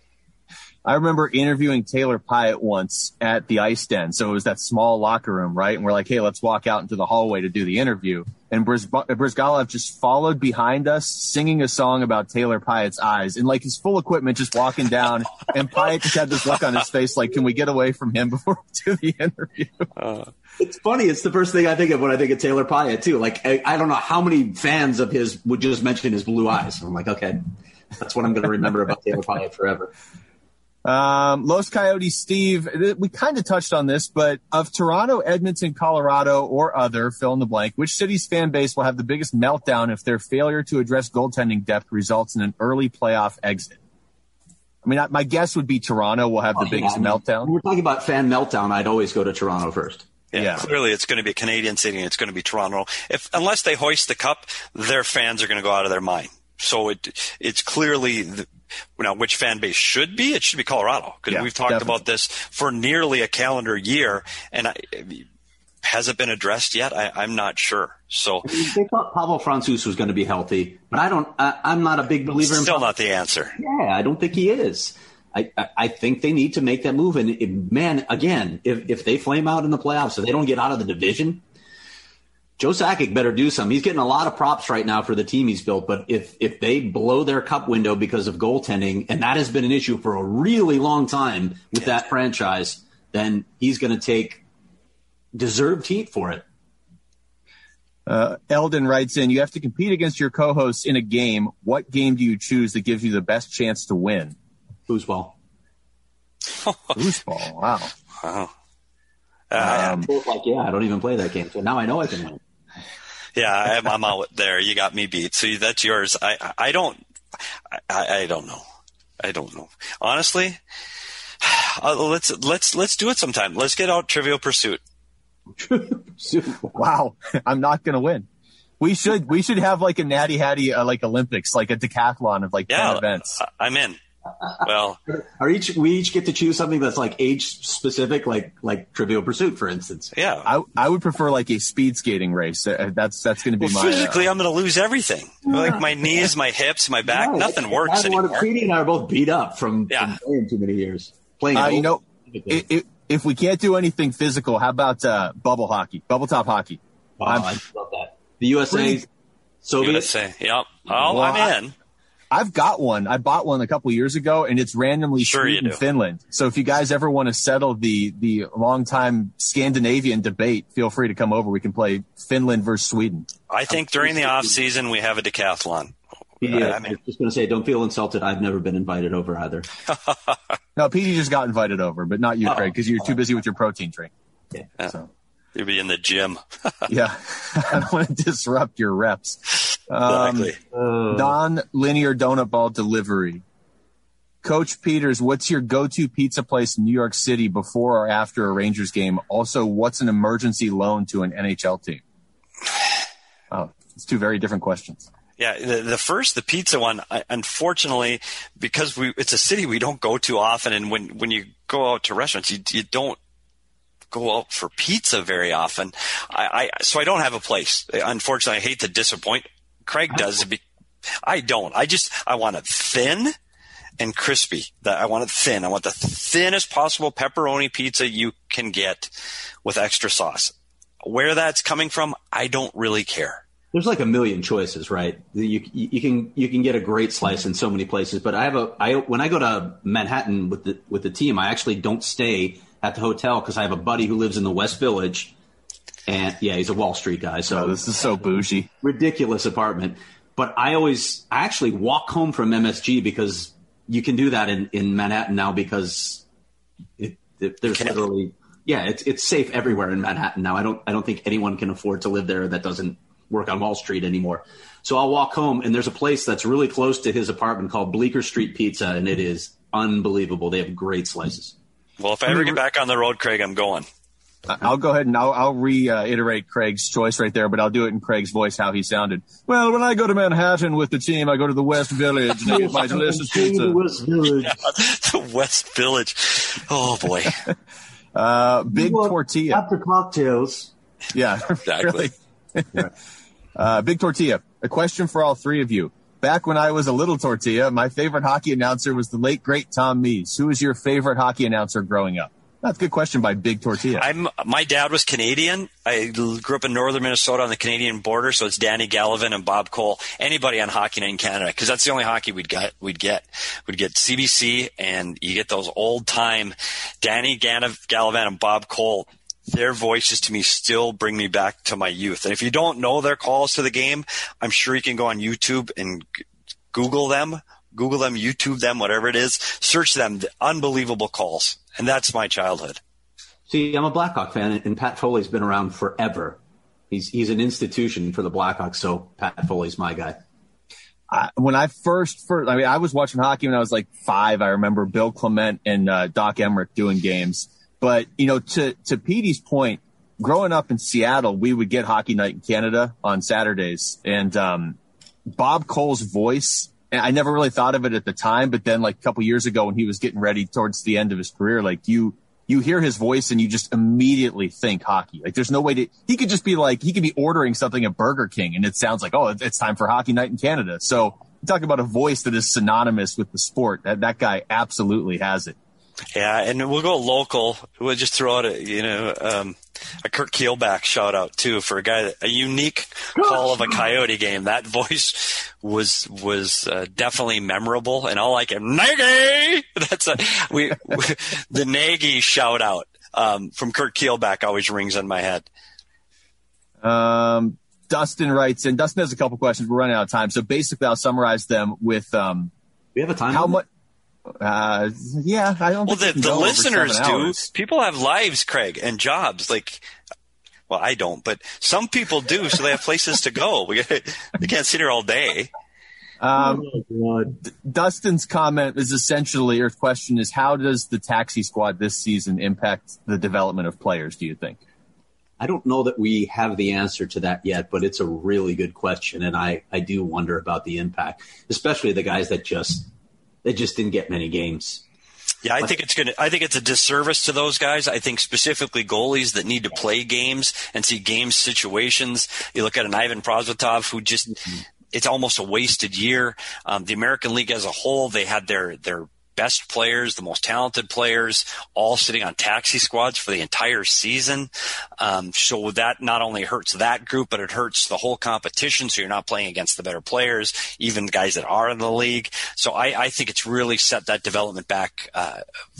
I remember interviewing Taylor Pyatt once at the Ice Den. So it was that small locker room, right? And we're like, hey, let's walk out into the hallway to do the interview. And Bryz- Bryzgalov just followed behind us singing a song about Taylor Pyatt's eyes and like his full equipment just walking down. And Pyatt just had this look on his face like, can we get away from him before we do the interview? Uh, it's funny. It's the first thing I think of when I think of Taylor Pyatt, too. Like, I, I don't know how many fans of his would just mention his blue eyes. I'm like, okay, that's what I'm going to remember about Taylor Pyatt forever. Um, Los Coyotes, Steve, we kind of touched on this, but of Toronto, Edmonton, Colorado, or other, fill in the blank, which city's fan base will have the biggest meltdown if their failure to address goaltending depth results in an early playoff exit? I mean, my guess would be Toronto will have the oh, biggest yeah, I mean, meltdown. When we're talking about fan meltdown, I'd always go to Toronto first. Yeah, yeah. Clearly it's going to be a Canadian city and it's going to be Toronto. If, unless they hoist the cup, their fans are going to go out of their mind. So it, it's clearly the, now, which fan base should be? It should be Colorado, because yeah, we've talked definitely. about this for nearly a calendar year, and I, has it been addressed yet? I, I'm not sure. So they thought Pavel Francouz was going to be healthy, but I don't. I, I'm not a big believer. Still in not the answer. Yeah, I don't think he is. I, I, I think they need to make that move. And if, man, again, if if they flame out in the playoffs, so they don't get out of the division, Joe Sakic better do something. He's getting a lot of props right now for the team he's built, but if if they blow their cup window because of goaltending, and that has been an issue for a really long time with that franchise, then he's going to take deserved heat for it. Uh, Eldon writes in, you have to compete against your co-hosts in a game. What game do you choose that gives you the best chance to win? Foosball. Foosball, wow. Wow. Um, like, yeah, I don't even play that game, so now I know I can win. Yeah, I'm, I'm out there. You got me beat. So that's yours. I, I don't, I, I don't know. I don't know. Honestly, uh, let's, let's, let's do it sometime. Let's get out Trivial Pursuit. Wow. I'm not going to win. We should, we should have like a Natty Hattie, uh, like Olympics, like a decathlon of like yeah, ten events. I'm in. Well, are each we each get to choose something that's like age specific, like like Trivial Pursuit, for instance. Yeah, I I would prefer like a speed skating race. That's that's going to be well, my. Physically, uh, I'm going to lose everything. Yeah. Like my knees, my hips, my back, yeah, nothing works anymore. Petey and I are both beat up from, yeah. from playing too many years. Playing, uh, you know, it, it, if we can't do anything physical, how about uh, bubble hockey, bubble top hockey? Oh, I love that. The U S A, Soviet. U S A, yep. Oh, well, I'm in. I've got one. I bought one a couple years ago, and it's randomly Sure Sweden, Finland. So if you guys ever want to settle the the long-time Scandinavian debate, feel free to come over. We can play Finland versus Sweden. I think during the off season we have a decathlon. Yeah, I I mean, was just going to say, don't feel insulted. I've never been invited over either. No, Petey just got invited over, but not you, Oh. Craig, because you're too busy with your protein drink. Yeah. So. you'll be in the gym. Yeah, I don't want to disrupt your reps. Um, Exactly. Non-linear donut ball delivery. Coach Peters, what's your go-to pizza place in New York City before or after a Rangers game? Also, what's an emergency loan to an N H L team? Oh, it's two very different questions. Yeah, the, the first, the pizza one, I, unfortunately, because we it's a city we don't go to often, and when, when you go out to restaurants, you, you don't go out for pizza very often. I, I so I don't have a place. Unfortunately, I hate to disappoint. Craig does. I don't. I just I want it thin and crispy. That I want it thin. I want the thinnest possible pepperoni pizza you can get with extra sauce. Where that's coming from, I don't really care. There's like a million choices, right? You you can you can get a great slice in so many places. But I have a I when I go to Manhattan with the with the team, I actually don't stay at the hotel because I have a buddy who lives in the West Village, and yeah, he's a Wall Street guy. So Oh, this is so bougie. ridiculous apartment. But I always I actually walk home from M S G because you can do that in, in Manhattan now because it, it, there's can. literally yeah it's it's safe everywhere in Manhattan now. I don't I don't think anyone can afford to live there that doesn't work on Wall Street anymore. So I'll walk home, and there's a place that's really close to his apartment called Bleecker Street Pizza, and it is unbelievable. They have great slices. Well, if I ever get back on the road, Craig, I'm going. I'll go ahead and I'll, I'll reiterate Craig's choice right there, but I'll do it in Craig's voice how he sounded. Well, when I go to Manhattan with the team, I go to the West Village and I get my delicious pizza. West Village. Yeah, the West Village. Oh, boy. Uh, big tortilla. After cocktails. Yeah, Exactly. really. uh, big tortilla. A question for all three of you. Back when I was a little tortilla, my favorite hockey announcer was the late, great Tom Mees. Who was your favorite hockey announcer growing up? That's a good question by Big Tortilla. I'm, my dad was Canadian. I grew up in northern Minnesota on the Canadian border, so it's Danny Gallivan and Bob Cole. Anybody on Hockey Night in Canada, because that's the only hockey we'd get. We'd get we'd get C B C, and you get those old time Danny Gallivan and Bob Cole. Their voices to me still bring me back to my youth. And if you don't know their calls to the game, I'm sure you can go on YouTube and g- Google them. Google them, YouTube them, whatever it is. Search them. The unbelievable calls. And that's my childhood. See, I'm a Blackhawk fan, and Pat Foley's been around forever. He's he's an institution for the Blackhawks, so Pat Foley's my guy. I, when I first, first, I mean, I was watching hockey when I was like five. I remember Bill Clement and uh, Doc Emmerich doing games. But, you know, to, to Petey's point, growing up in Seattle, we would get Hockey Night in Canada on Saturdays. And um, Bob Cole's voice, and I never really thought of it at the time, but then like a couple years ago when he was getting ready towards the end of his career, like you you hear his voice and you just immediately think hockey. Like there's no way to – he could just be like – he could be ordering something at Burger King and it sounds like, oh, it's time for Hockey Night in Canada. So you talk about a voice that is synonymous with the sport. That, that guy absolutely has it. Yeah, and we'll go local. We'll just throw out a, you know, um, a Kurt Keelback shout out too for a guy, a unique call of a Coyote game. That voice was was uh, definitely memorable, and all I can Nagy. That's a we, we the Nagy shout out um, from Kurt Keelback always rings in my head. Um, Dustin writes, and Dustin has a couple questions. We're running out of time, so basically, I'll summarize them with um, We have a time. how much. Uh, yeah, I don't. Well, think the, we can the go over listeners seven do. hours. People have lives, Craig, and jobs. Like, well, I don't, but some people do, so they have places to go. We they can't sit here all day. Um, Oh, D- Dustin's comment is essentially, or question is, how does the taxi squad this season impact the development of players, do you think? I don't know that we have the answer to that yet, but it's a really good question, and I, I do wonder about the impact, especially the guys that just they just didn't get many games. Yeah, I think it's going to, I think it's a disservice to those guys. I think specifically goalies that need to play games and see game situations. You look at an Ivan Prosvetov who just, it's almost a wasted year. Um, the American League as a whole, they had their, their best players, the most talented players, all sitting on taxi squads for the entire season. Um, so that not only hurts that group, but it hurts the whole competition. So you're not playing against the better players, even the guys that are in the league. So I, I think it's really set that development back uh,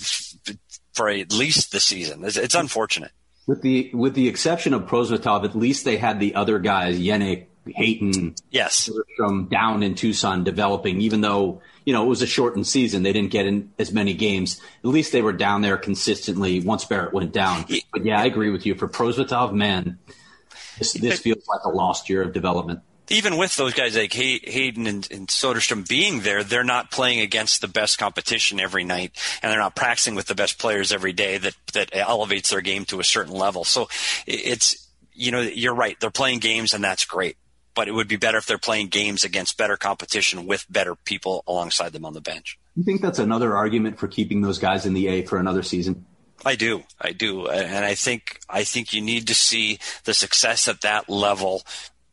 for at least the season. It's, it's unfortunate. With the with the exception of Prosvetov, at least they had the other guys, Yannick, Hayton, yes, from down in Tucson developing, even though, you know, it was a shortened season. They didn't get in as many games. At least they were down there consistently once Barrett went down. But yeah, I agree with you. For Prosvetov, man, this, this feels like a lost year of development. Even with those guys like Hay- Hayden and, and Soderstrom being there, they're not playing against the best competition every night, and they're not practicing with the best players every day that, that elevates their game to a certain level. So it's, you know, you're right. They're playing games, and that's great. But it would be better if they're playing games against better competition with better people alongside them on the bench. You think that's another argument for keeping those guys in the A for another season? I do. I do. And I think, I think you need to see the success at that level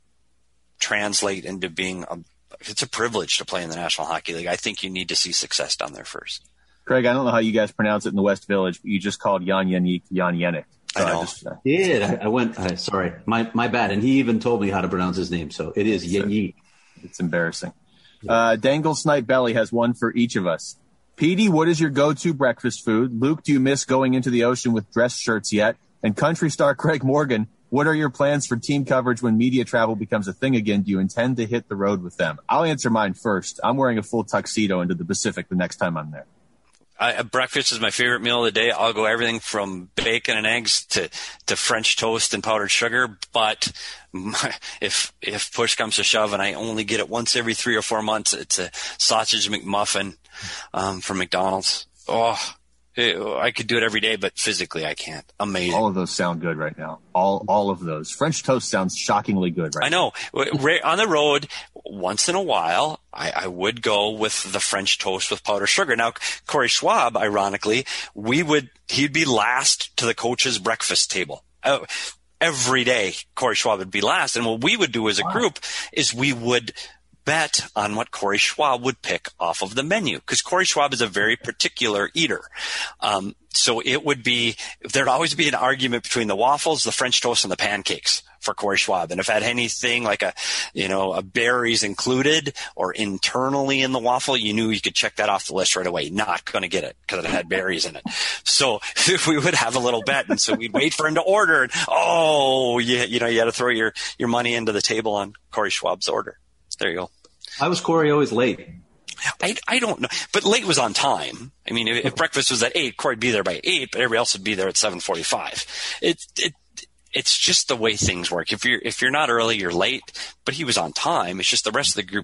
translate into being a, it's a privilege to play in the National Hockey League. I think you need to see success down there first. Craig, I don't know how you guys pronounce it in the West Village, but you just called Jan Yannick Jan Yannick. So I know. I just, uh, yeah, I, I went, uh, sorry, my, my bad. And he even told me how to pronounce his name. So it is Yannick. It's embarrassing. Uh, Dangle Snipe Belly has one for each of us. Petey, what is your go-to breakfast food? Luke, do you miss going into the ocean with dress shirts yet? And country star Craig Morgan, what are your plans for team coverage when media travel becomes a thing again? Do you intend to hit the road with them? I'll answer mine first. I'm wearing a full tuxedo into the Pacific the next time I'm there. I, breakfast is my favorite meal of the day. I'll go everything from bacon and eggs to, to French toast and powdered sugar. But my, if if push comes to shove and I only get it once every three or four months, it's a sausage McMuffin um, from McDonald's. Oh, it, I could do it every day, but physically I can't. Amazing. All of those sound good right now. All all of those. French toast sounds shockingly good right now. I know. On the road, once in a while, I, I would go with the French toast with powdered sugar. Now, Corey Schwab, ironically, we would he'd be last to the coach's breakfast table. Uh, every day, Corey Schwab would be last. And what we would do as a group is we would bet on what Corey Schwab would pick off of the menu, because Corey Schwab is a very particular eater. Um, so it would be, there'd always be an argument between the waffles, the French toast, and the pancakes for Corey Schwab. And if it had anything like a, you know, a berries included or internally in the waffle, you knew you could check that off the list right away. Not going to get it because it had berries in it. So we would have a little bet. And so we'd wait for him to order. And, oh, you, you know, you had to throw your, your money into the table on Corey Schwab's order. There you go. Why was Corey always late? I, I don't know, but late was on time. I mean, if, if breakfast was at eight, Corey'd be there by eight, but everybody else would be there at seven forty-five. It, it, it's just the way things work. If you're, if you're not early, you're late, but he was on time. It's just the rest of the group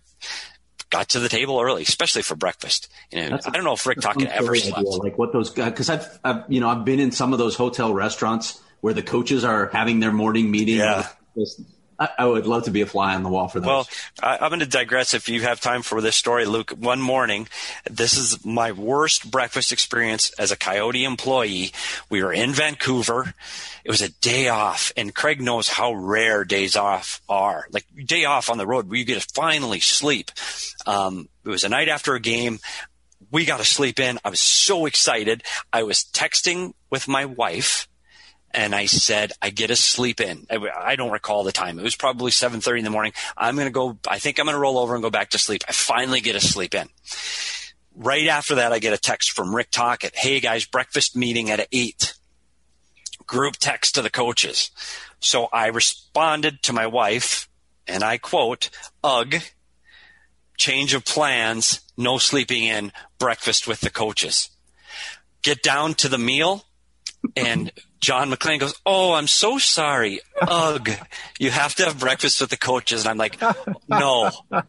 got to the table early, especially for breakfast. You know, I don't know if Rick Tocchet ever slept. Idea, like what those guys, cause I've, I've, you know, I've been in some of those hotel restaurants where the coaches are having their morning meeting. Yeah. I, I would love to be a fly on the wall for those. Well, I, I'm going to digress if you have time for this story, Luke. One morning, this is my worst breakfast experience as a Coyote employee. We were in Vancouver. It was a day off, and Craig knows how rare days off are. Like, day off on the road where you get to finally sleep. Um, it was a night after a game. We got to sleep in. I was so excited. I was texting with my wife. And I said, I get to sleep in. I, I don't recall the time. It was probably seven thirty in the morning. I'm going to go, I think I'm going to roll over and go back to sleep. I finally get to sleep in. Right after that, I get a text from Rick Tocchet. Hey guys, breakfast meeting at eight. Group text to the coaches. So I responded to my wife, and I quote, ugh, change of plans, no sleeping in, breakfast with the coaches. Get down to the meal, and John McClain goes, oh, I'm so sorry. Ugh, you have to have breakfast with the coaches. And I'm like, no,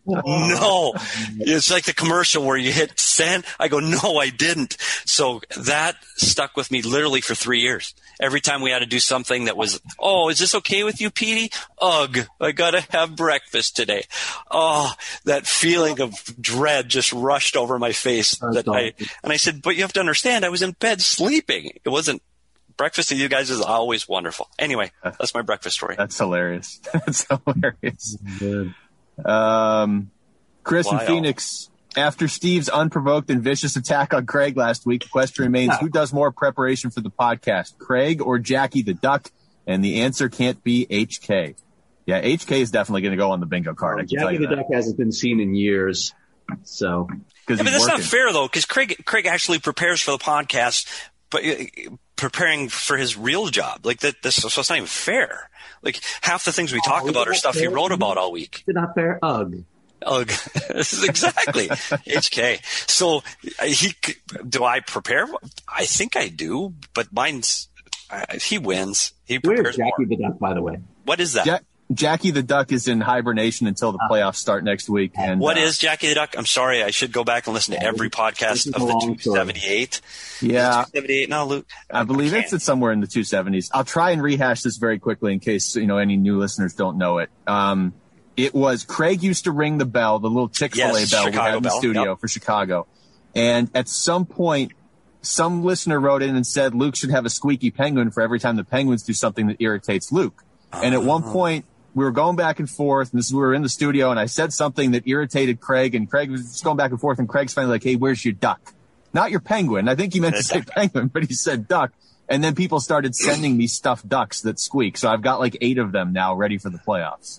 no. It's like the commercial where you hit send. I go, no, I didn't. So that stuck with me literally for three years. Every time we had to do something that was, oh, is this okay with you, Petey? Ugh, I got to have breakfast today. Oh, that feeling of dread just rushed over my face. That I, and I said, but you have to understand, I was in bed sleeping. It wasn't. Breakfast with you guys is always wonderful. Anyway, that's my breakfast story. That's hilarious. That's hilarious. Good. Um, Chris Wild. in Phoenix. After Steve's unprovoked and vicious attack on Craig last week, the question remains, Yeah. who does more preparation for the podcast, Craig or Jackie the Duck? And the answer can't be H K. Yeah, H K is definitely going to go on the bingo card. I can tell Jackie you the that. Duck hasn't been seen in years, so. Because Yeah, but he's that's working. not fair though, because Craig Craig actually prepares for the podcast, but uh, preparing for his real job. Like that, this, so it's not even fair. Like half the things we talk Oh, about are is stuff that he fair? wrote about all week. Is it not fair? Ugh. Ugh. This is exactly H K. So uh, he c- do I prepare? I think I do, but mine's uh, he wins. He Where's prepares Jackie more. the Duck, by the way? What is that? Ja- Jackie the Duck is in hibernation until the playoffs start next week. And What uh, is Jackie the Duck? I'm sorry, I should go back and listen to every this podcast is of a the long two story. seventy-eight. Yeah, two seventy-eight now, Luke. I believe it's can't. it's somewhere in the two seventies. I'll try and rehash this very quickly in case, you know, any new listeners don't know it. Um, it was Craig used to ring the bell, the little Chick-fil-A Yes, bell we Chicago had in the bell, studio yep. for Chicago. And at some point, some listener wrote in and said Luke should have a squeaky penguin for every time the Penguins do something that irritates Luke. And at one point, we were going back and forth, and this is, we were in the studio, and I said something that irritated Craig, and Craig was just going back and forth, and Craig's finally like, hey, where's your duck? Not your penguin. I think he meant to say penguin, but he said duck. And then people started sending me stuffed ducks that squeak. So I've got like eight of them now ready for the playoffs.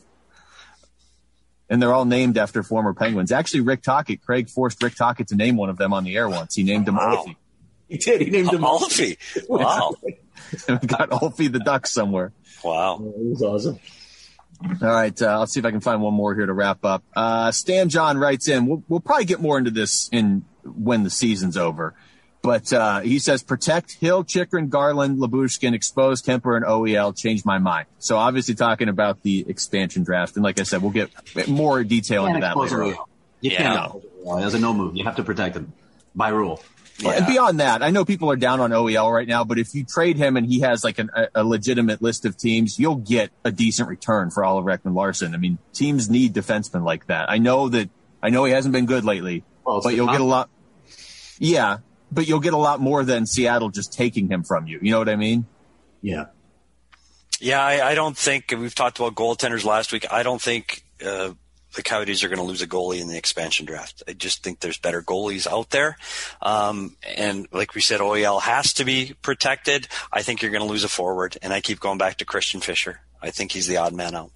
And they're all named after former Penguins. Actually, Rick Tocchet, Craig forced Rick Tocchet to name one of them on the air once. He named him Wow. Ulfie. He did. He named him Alfie. Wow. We got Ulfie the duck somewhere. Wow. It was awesome. All right, uh, let's see if I can find one more here to wrap up. Uh, Stan John writes in, we'll, we'll probably get more into this in when the season's over. But uh, he says, protect Hill, Chikrin, Garland, Labushkin, expose Kemper, and O E L, change my mind. So obviously talking about the expansion draft. And like I said, we'll get more detail into that later on. You Yeah. can't expose O E L. As a no move, you have to protect him by rule. Yeah. And beyond that, I know people are down on O E L right now, but if you trade him and he has like an, a, a legitimate list of teams, you'll get a decent return for Oliver Ekman-Larsson. I mean, teams need defensemen like that. I know that, I know he hasn't been good lately, Well, it's but the you'll get a con- lot. Yeah, but you'll get a lot more than Seattle just taking him from you. You know what I mean? Yeah. Yeah, I, I don't think we've talked about goaltenders last week. I don't think uh, the Coyotes are going to lose a goalie in the expansion draft. I just think there's better goalies out there. Um, and like we said, O E L has to be protected. I think you're going to lose a forward. And I keep going back to Christian Fischer. I think he's the odd man out.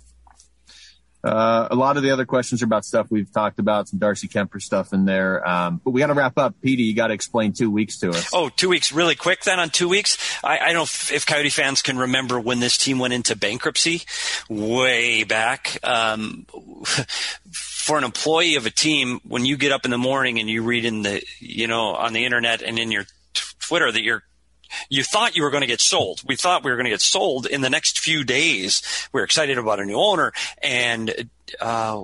Uh, a lot of the other questions are about stuff we've talked about, some Darcy Kemper stuff in there. Um, but we got to wrap up. Petey, you got to explain two weeks to us. Oh, two weeks. Really quick then on two weeks. I, I don't know if, if Coyote fans can remember when this team went into bankruptcy way back. Um, for an employee of a team, when you get up in the morning and you read in the, you know, on the internet and in your t- Twitter that you're You thought you were going to get sold. We thought we were going to get sold in the next few days. We were excited about a new owner, and uh,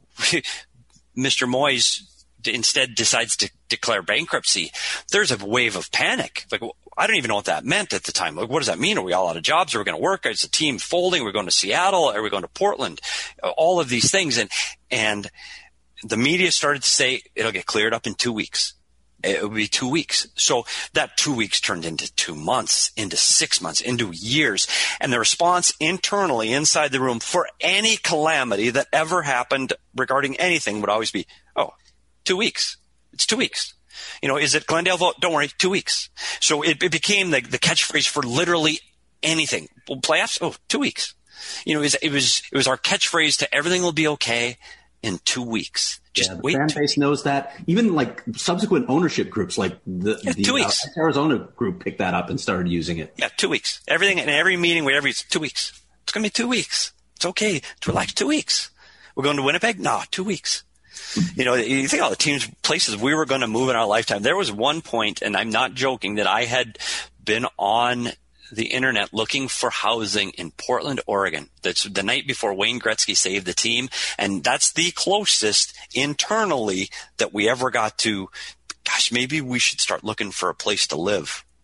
Mister Moyes instead decides to declare bankruptcy. There's a wave of panic. Like, I don't even know what that meant at the time. Like, what does that mean? Are we all out of jobs? Are we going to work? Is the team folding? Are we going to Seattle? Are we going to Portland? All of these things. And, and the media started to say it'll get cleared up in two weeks. It would be two weeks. So that two weeks turned into two months, into six months, into years. And the response internally inside the room for any calamity that ever happened regarding anything would always be, oh, two weeks. It's two weeks. You know, is it Glendale vote? Don't worry, two weeks. So it, it became the, the catchphrase for literally anything. Well, playoffs? Oh, two weeks. You know, it was, it was, it was our catchphrase to everything will be okay in two weeks. Just yeah, the wait. fan base knows that. Even like subsequent ownership groups, like the, Yeah, the two weeks. Uh, Arizona group, picked that up and started using it. Yeah, two weeks. Everything in every meeting, whatever, it's two weeks. It's going to be two weeks. It's okay to relax. Two weeks. We're going to Winnipeg? No, two weeks. You know, you think all the teams, places we were going to move in our lifetime. There was one point, and I'm not joking, that I had been on the internet looking for housing in Portland, Oregon. That's the night before Wayne Gretzky saved the team. And that's the closest internally that we ever got to, gosh, maybe we should start looking for a place to live.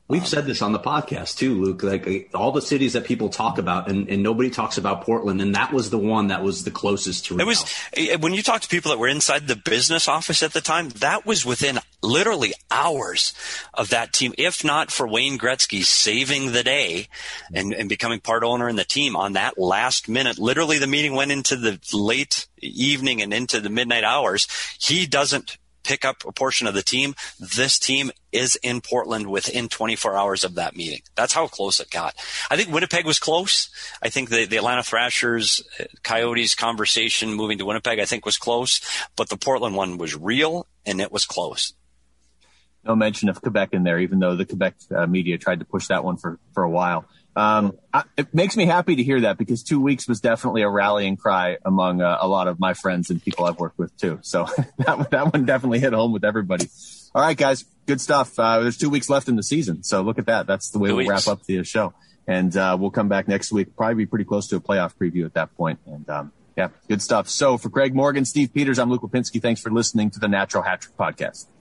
We've said this on the podcast too, Luke, like all the cities that people talk about and, and nobody talks about Portland. And that was the one that was the closest to Real. It was, when you talk to people that were inside the business office at the time, that was within literally hours of that team. If not for Wayne Gretzky saving the day and, and becoming part owner in the team on that last minute, literally the meeting went into the late evening and into the midnight hours. He doesn't pick up a portion of the team. This team is in Portland within twenty-four hours of that meeting. That's how close it got. I think Winnipeg was close. I think the, the Atlanta Thrashers, Coyotes conversation moving to Winnipeg, I think was close, but the Portland one was real and it was close. No mention of Quebec in there, even though the Quebec uh, media tried to push that one for, for a while. Um, I, it makes me happy to hear that because two weeks was definitely a rallying cry among uh, a lot of my friends and people I've worked with too. So that, that one definitely hit home with everybody. All right, guys, good stuff. Uh, there's two weeks left in the season. So look at that. That's the way two we'll weeks. wrap up the show. And uh, we'll come back next week, probably be pretty close to a playoff preview at that point. And um, yeah, good stuff. So for Craig Morgan, Steve Peters, I'm Luke Lipinski. Thanks for listening to the Natural Hat Trick Podcast.